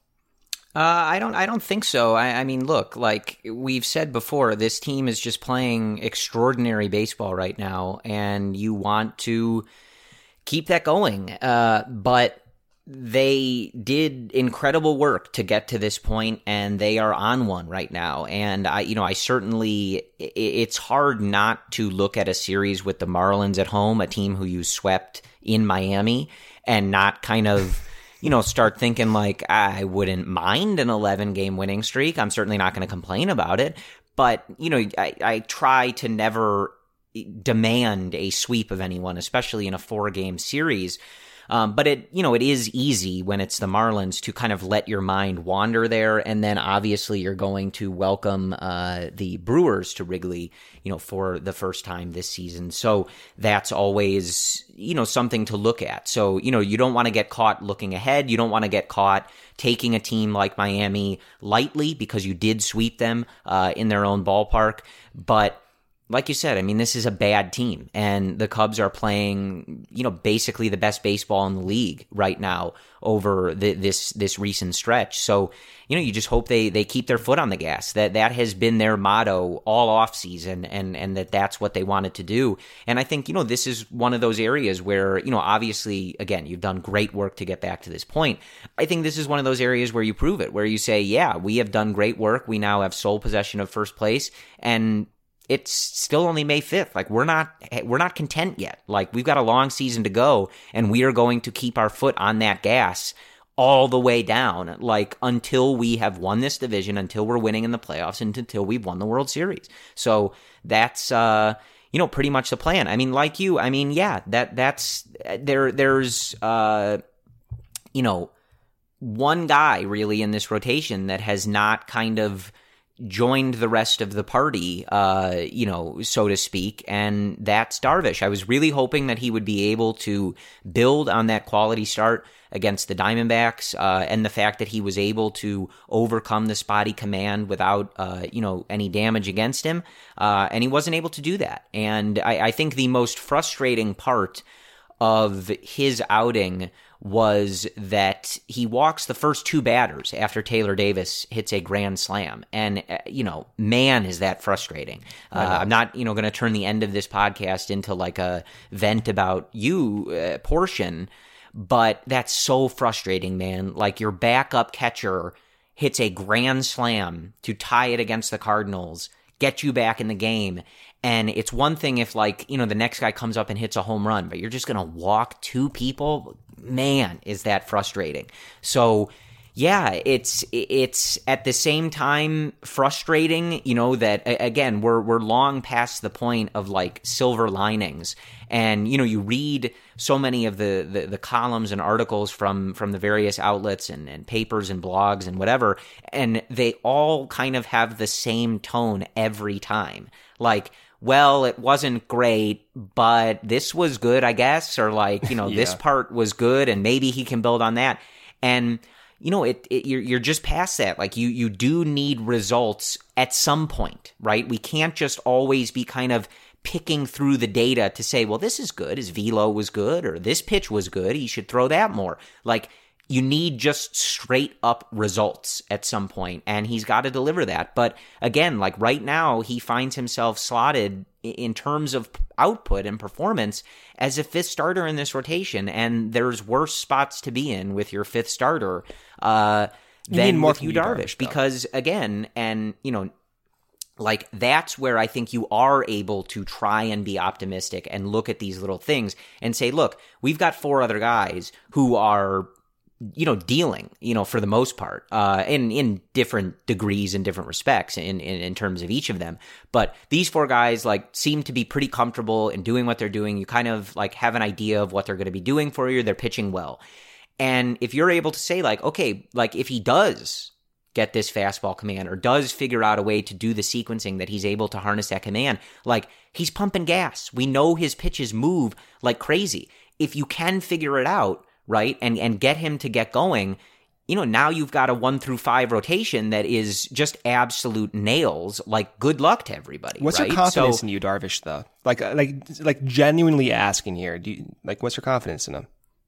Uh, I don't. I don't think so. I, I mean, look, like we've said before, this team is just playing extraordinary baseball right now, and you want to keep that going. Uh, but they did incredible work to get to this point, and they are on one right now. And I, you know, I certainly, it's hard not to look at a series with the Marlins at home, a team who you swept in Miami, and not kind of, you know, start thinking like, I wouldn't mind an eleven-game winning streak. I'm certainly not going to complain about it. But, you know, I, I try to never demand a sweep of anyone, especially in a four-game series. Um, but it, you know, it is easy when it's the Marlins to kind of let your mind wander there. And then obviously you're going to welcome uh, the Brewers to Wrigley, you know, for the first time this season. So that's always, you know, something to look at. So, you know, you don't want to get caught looking ahead. You don't want to get caught taking a team like Miami lightly because you did sweep them uh, in their own ballpark. But like you said, I mean, this is a bad team, and the Cubs are playing, you know, basically the best baseball in the league right now over the, this this recent stretch. So, you know, you just hope they, they keep their foot on the gas. That that has been their motto all offseason, and and that that's what they wanted to do. And I think, you know, this is one of those areas where, you know, obviously, again, you've done great work to get back to this point. I think this is one of those areas where you prove it, where you say, yeah, we have done great work. We now have sole possession of first place, and it's still only May fifth. Like we're not, we're not content yet. Like we've got a long season to go, and we are going to keep our foot on that gas all the way down, like until we have won this division, until we're winning in the playoffs, and until we've won the World Series. So that's, uh, you know, pretty much the plan. I mean, like you, I mean, yeah, that that's there. There's, uh, you know, one guy really in this rotation that has not kind of joined the rest of the party, uh, you know, so to speak, and that's Darvish. I was really hoping that he would be able to build on that quality start against the Diamondbacks, uh, and the fact that he was able to overcome the spotty command without, uh, you know, any damage against him, uh, and he wasn't able to do that. And I, I think the most frustrating part of his outing was that he walks the first two batters after Taylor Davis hits a grand slam. And, uh, you know, man, is that frustrating. Uh, I'm not, you know, going to turn the end of this podcast into like a vent about you uh, portion, but that's so frustrating, man. Like your backup catcher hits a grand slam to tie it against the Cardinals, get you back in the game. And it's one thing if, like, you know, the next guy comes up and hits a home run, but you're just going to walk two people. Man, is that frustrating. So, yeah, it's it's at the same time frustrating, you know, that, again, we're we're long past the point of, like, silver linings. And, you know, you read so many of the, the, the columns and articles from, from the various outlets and, and papers and blogs and whatever, and they all kind of have the same tone every time. Like, well, it wasn't great, but this was good, I guess, or like, you know, yeah. This part was good, and maybe he can build on that. And, you know, it, it you're, you're just past that. Like, you, you do need results at some point, right? We can't just always be kind of picking through the data to say, well, this is good, his velo was good, or this pitch was good, he should throw that more. Like, you need just straight up results at some point, and he's got to deliver that. But again, like right now, he finds himself slotted in terms of output and performance as a fifth starter in this rotation, and there's worse spots to be in with your fifth starter uh, than with Yu Darvish. Because again, and you know, like that's where I think you are able to try and be optimistic and look at these little things and say, look, we've got four other guys who are, you know, dealing, you know, for the most part, uh, in, in different degrees and different respects in, in, in terms of each of them. But these four guys like seem to be pretty comfortable in doing what they're doing. You kind of like have an idea of what they're going to be doing for you. They're pitching well. And if you're able to say like, okay, like if he does get this fastball command or does figure out a way to do the sequencing that he's able to harness that command, like he's pumping gas. We know his pitches move like crazy. If you can figure it out, right, and, and get him to get going, you know, now you've got a one through five rotation that is just absolute nails. Like, good luck to everybody. What's right? your confidence so, in you, Darvish, though? Like, like, like genuinely asking here, do you, like, what's your confidence in him?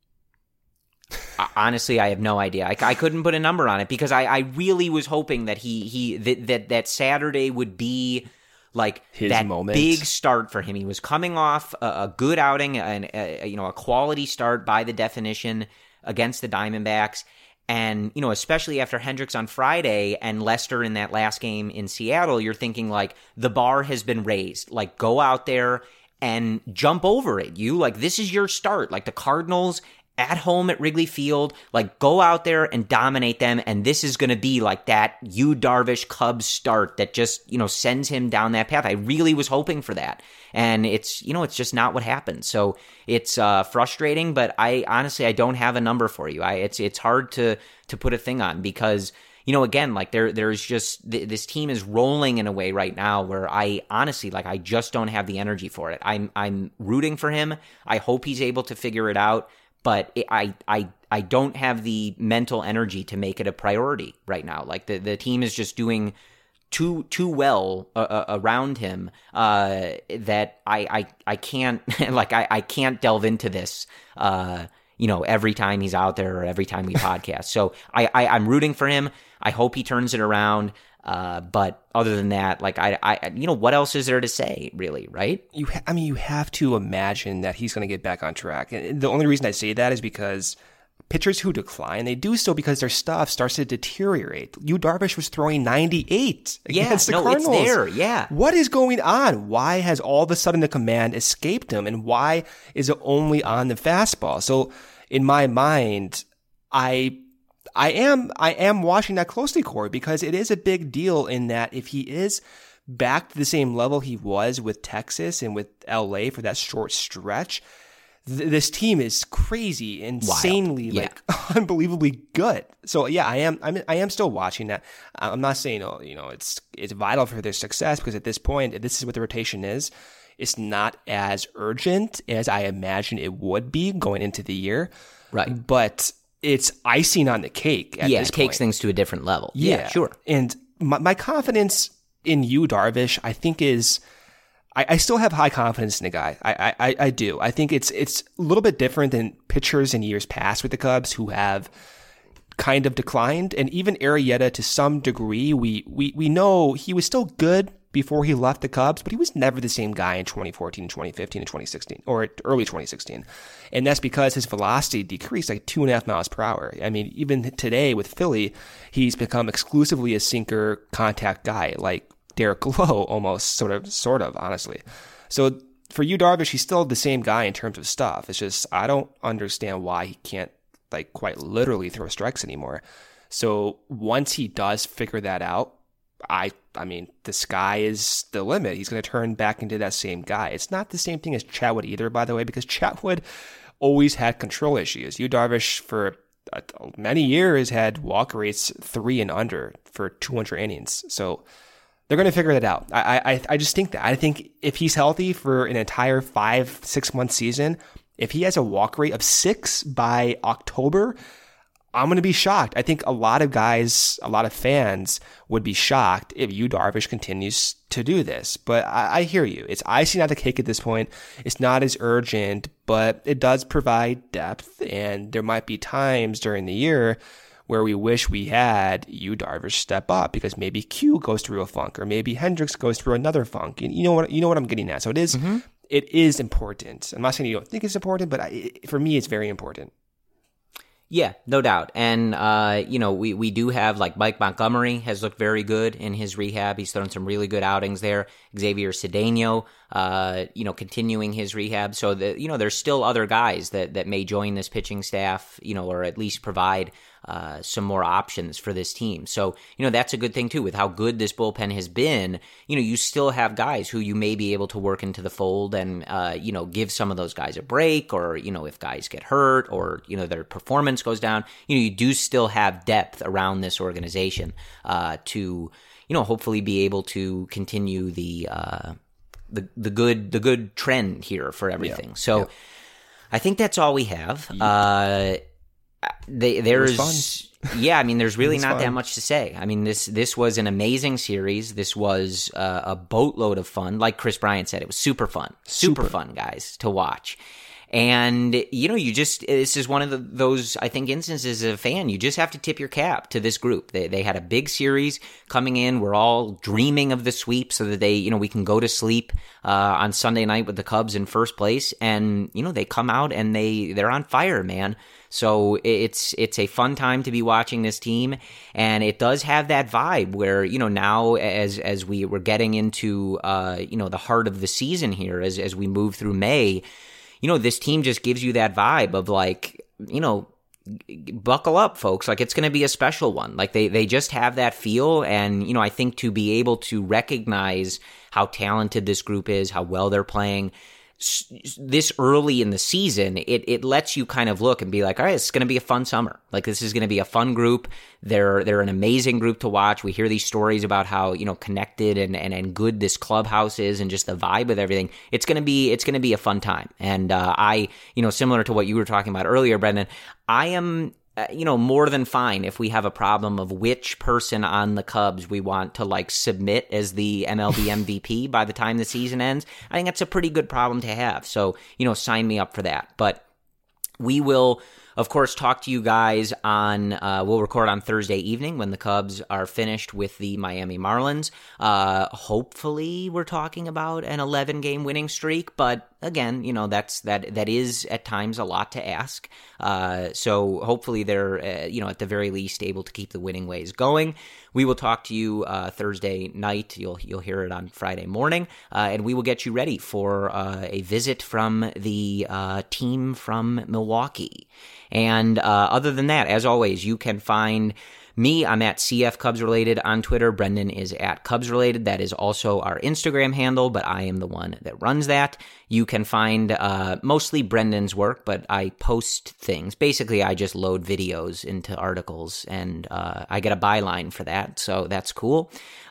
Honestly, I have no idea. I, I couldn't put a number on it because I, I really was hoping that he he that that, that Saturday would be like his that moment. Big start for him. He was coming off a, a good outing and a, you know a quality start by the definition against the Diamondbacks, and you know especially after Hendricks on Friday and Lester in that last game in Seattle, you're thinking like the bar has been raised. Like go out there and jump over it. You like this is your start. Like the Cardinals at home at Wrigley Field, like go out there and dominate them, and this is going to be like that Yu Darvish Cubs start that just, you know, sends him down that path. I really was hoping for that, and it's, you know, it's just not what happened. So it's uh, frustrating, but I honestly I don't have a number for you. I it's it's hard to to put a thing on because, you know, again, like there there's just th- this team is rolling in a way right now where I honestly like I just don't have the energy for it. I'm I'm rooting for him. I hope he's able to figure it out. But it, I, I, I don't have the mental energy to make it a priority right now. Like the, the team is just doing too too well uh, uh, around him uh, that I, I I can't like I, I can't delve into this. Uh, you know, every time he's out there or every time we podcast. So I, I I'm rooting for him. I hope he turns it around. Uh, but other than that, like I, I, you know, what else is there to say, really, right? You, ha- I mean, you have to imagine that he's going to get back on track. And the only reason I say that is because pitchers who decline, they do so because their stuff starts to deteriorate. Yu Darvish was throwing ninety-eight against yeah, the no, Cardinals. It's there, yeah. What is going on? Why has all of a sudden the command escaped him, and why is it only on the fastball? So, in my mind, I. I am I am watching that closely, Corey, because it is a big deal in that if he is back to the same level he was with Texas and with L A for that short stretch, th- this team is crazy, insanely, yeah. like unbelievably good. So yeah, I am I'm, I am still watching that. I'm not saying oh, you know it's it's vital for their success because at this point, this is what the rotation is. It's not as urgent as I imagine it would be going into the year, right? But it's icing on the cake at yeah, this it takes point. things to a different level. Yeah, yeah sure. And my, my confidence in Yu Darvish, I think is, I, I still have high confidence in the guy. I, I, I do. I think it's it's a little bit different than pitchers in years past with the Cubs who have kind of declined. And even Arrieta, to some degree, we we we know he was still good before he left the Cubs, but he was never the same guy in twenty fourteen, twenty fifteen, and twenty sixteen, or early twenty sixteen. And that's because his velocity decreased like two and a half miles per hour. I mean, even today with Philly, he's become exclusively a sinker contact guy, like Derek Lowe almost, sort of, sort of, honestly. So for Yu Darvish, he's still the same guy in terms of stuff. It's just, I don't understand why he can't like quite literally throw strikes anymore. So once he does figure that out, I I mean, the sky is the limit. He's going to turn back into that same guy. It's not the same thing as Chatwood either, by the way, because Chatwood always had control issues. Yu Darvish, for uh, many years, had walk rates three and under for two hundred innings. So they're going to figure that out. I, I I just think that. I think if he's healthy for an entire five, six-month season, if he has a walk rate of six by October, I'm going to be shocked. I think a lot of guys, a lot of fans would be shocked if Yu Darvish continues to do this. But I, I hear you. It's icing on the cake at this point. It's not as urgent, but it does provide depth. And there might be times during the year where we wish we had Yu Darvish step up because maybe Q goes through a funk or maybe Hendricks goes through another funk. You know what? You know what I'm getting at. So it is, mm-hmm. it is important. I'm not saying you don't think it's important, but I, it, for me, it's very important. Yeah, no doubt. And, uh, you know, we, we do have, like, Mike Montgomery has looked very good in his rehab. He's thrown some really good outings there. Xavier Cedeno, uh, you know, continuing his rehab. So, the, you know, there's still other guys that, that may join this pitching staff, you know, or at least provide uh, some more options for this team. So, you know, that's a good thing, too. With how good this bullpen has been, you know, you still have guys who you may be able to work into the fold and, uh, you know, give some of those guys a break, or, you know, if guys get hurt or, you know, their performance goes down, you know, you do still have depth around this organization uh, to, you know, hopefully be able to continue the uh, the the good the good trend here for everything. Yeah. So, yeah. I think that's all we have. Yeah. Uh, they, there's yeah, I mean, there's really not fun. that much to say. I mean, this this was an amazing series. This was uh, a boatload of fun. Like Chris Bryant said, it was super fun, super, super. fun, guys, to watch. And, you know, you just, this is one of the, those, I think, instances as a fan, you just have to tip your cap to this group. They they had a big series coming in. We're all dreaming of the sweep so that they, you know, we can go to sleep uh, on Sunday night with the Cubs in first place. And, you know, they come out and they, they're on fire, man. So it's it's a fun time to be watching this team, and it does have that vibe where, you know, now as as we we're getting into uh, you know, the heart of the season here, as as we move through May, you know, this team just gives you that vibe of like, you know, buckle up, folks. Like, it's going to be a special one. Like, they they just have that feel, and, you know, I think to be able to recognize how talented this group is, how well they're playing this early in the season, it it lets you kind of look and be like, all right, it's going to be a fun summer. Like, this is going to be a fun group. They're they're an amazing group to watch. We hear these stories about how, you know, connected and, and, and good this clubhouse is, and just the vibe of everything. It's going to be it's going to be a fun time. And uh, I, you know, similar to what you were talking about earlier, Brendan, I am Uh, you know, more than fine if we have a problem of which person on the Cubs we want to, like, submit as the M L B M V P by the time the season ends. I think that's a pretty good problem to have. So, you know, sign me up for that. But we will, of course, talk to you guys on, uh, we'll record on Thursday evening when the Cubs are finished with the Miami Marlins. Uh, hopefully we're talking about an eleven game winning streak, but again, you know, that's, that, that is at times a lot to ask. Uh, so hopefully they're, uh, you know, at the very least able to keep the winning ways going. We will talk to you, uh, Thursday night. You'll, you'll hear it on Friday morning. Uh, and we will get you ready for, uh, a visit from the, uh, team from Milwaukee. And, uh, other than that, as always, you can find me, I'm at C F Cubs Related on Twitter. Brendan is at Cubs Related. That is also our Instagram handle, but I am the one that runs that. You can find uh, mostly Brendan's work, but I post things. Basically, I just load videos into articles, and uh, I get a byline for that, so that's cool.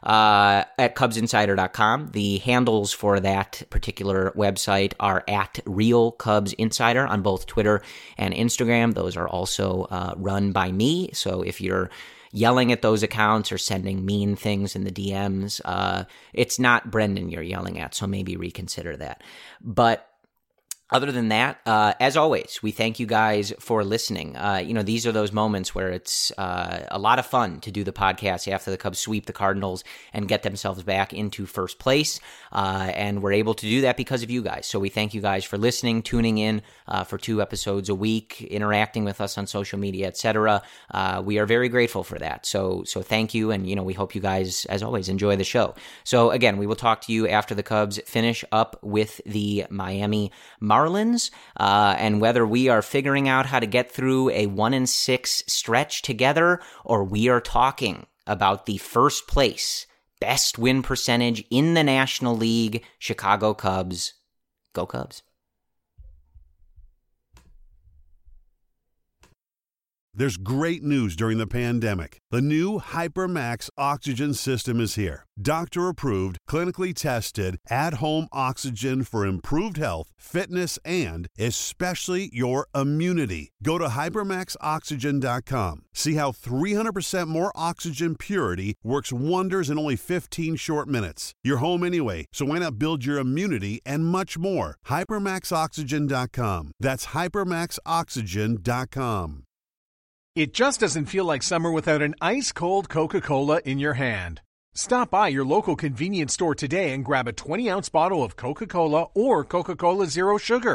Uh, at Cubs Insider dot com, the handles for that particular website are at Real Cubs Insider on both Twitter and Instagram. Those are also uh, run by me, so if you're yelling at those accounts or sending mean things in the D Ms, uh, it's not Brendan you're yelling at, so maybe reconsider that. But other than that, uh, as always, we thank you guys for listening. Uh, you know, these are those moments where it's uh, a lot of fun to do the podcast after the Cubs sweep the Cardinals and get themselves back into first place. Uh, and we're able to do that because of you guys. So we thank you guys for listening, tuning in uh, for two episodes a week, interacting with us on social media, et cetera. Uh, we are very grateful for that. So, so thank you. And, you know, we hope you guys, as always, enjoy the show. So again, we will talk to you after the Cubs finish up with the Miami Marlins. Marlins, uh, and whether we are figuring out how to get through a one and six stretch together, or we are talking about the first place best win percentage in the National League, Chicago Cubs. Go Cubs. There's great news during the pandemic. The new HyperMax oxygen system is here. Doctor-approved, clinically tested, at-home oxygen for improved health, fitness, and especially your immunity. Go to hypermax oxygen dot com. See how three hundred percent more oxygen purity works wonders in only fifteen short minutes. You're home anyway, so why not build your immunity and much more? hypermax oxygen dot com. That's hypermax oxygen dot com. It just doesn't feel like summer without an ice-cold Coca-Cola in your hand. Stop by your local convenience store today and grab a twenty ounce bottle of Coca-Cola or Coca-Cola Zero Sugar.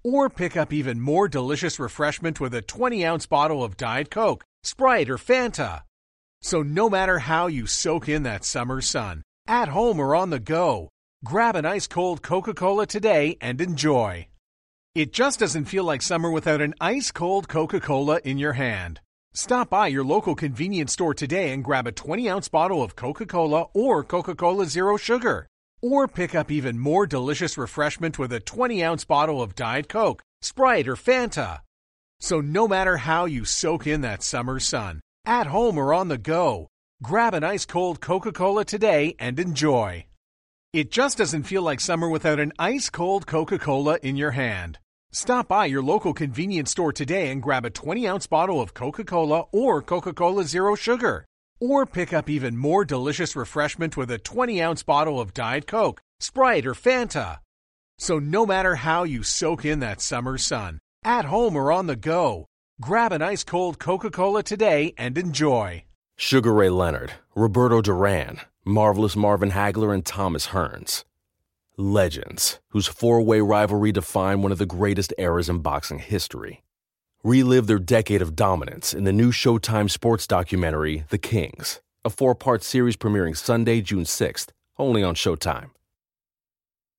Or pick up even more delicious refreshment with a twenty-ounce bottle of Diet Coke, Sprite, or Fanta. So no matter how you soak in that summer sun, at home or on the go, grab an ice-cold Coca-Cola today and enjoy. It just doesn't feel like summer without an ice-cold Coca-Cola in your hand. Stop by your local convenience store today and grab a twenty-ounce bottle of Coca-Cola or Coca-Cola Zero Sugar. Or pick up even more delicious refreshment with a twenty-ounce bottle of Diet Coke, Sprite, or Fanta. So no matter how you soak in that summer sun, at home or on the go, grab an ice-cold Coca-Cola today and enjoy. It just doesn't feel like summer without an ice-cold Coca-Cola in your hand. Stop by your local convenience store today and grab a twenty-ounce bottle of Coca-Cola or Coca-Cola Zero Sugar. Or pick up even more delicious refreshment with a twenty-ounce bottle of Diet Coke, Sprite, or Fanta. So no matter how you soak in that summer sun, at home or on the go, grab an ice-cold Coca-Cola today and enjoy. Sugar Ray Leonard, Roberto Duran, Marvelous Marvin Hagler, and Thomas Hearns. Legends, whose four-way rivalry defined one of the greatest eras in boxing history. Relive their decade of dominance in the new Showtime sports documentary, The Kings, a four-part series premiering Sunday, June sixth, only on Showtime.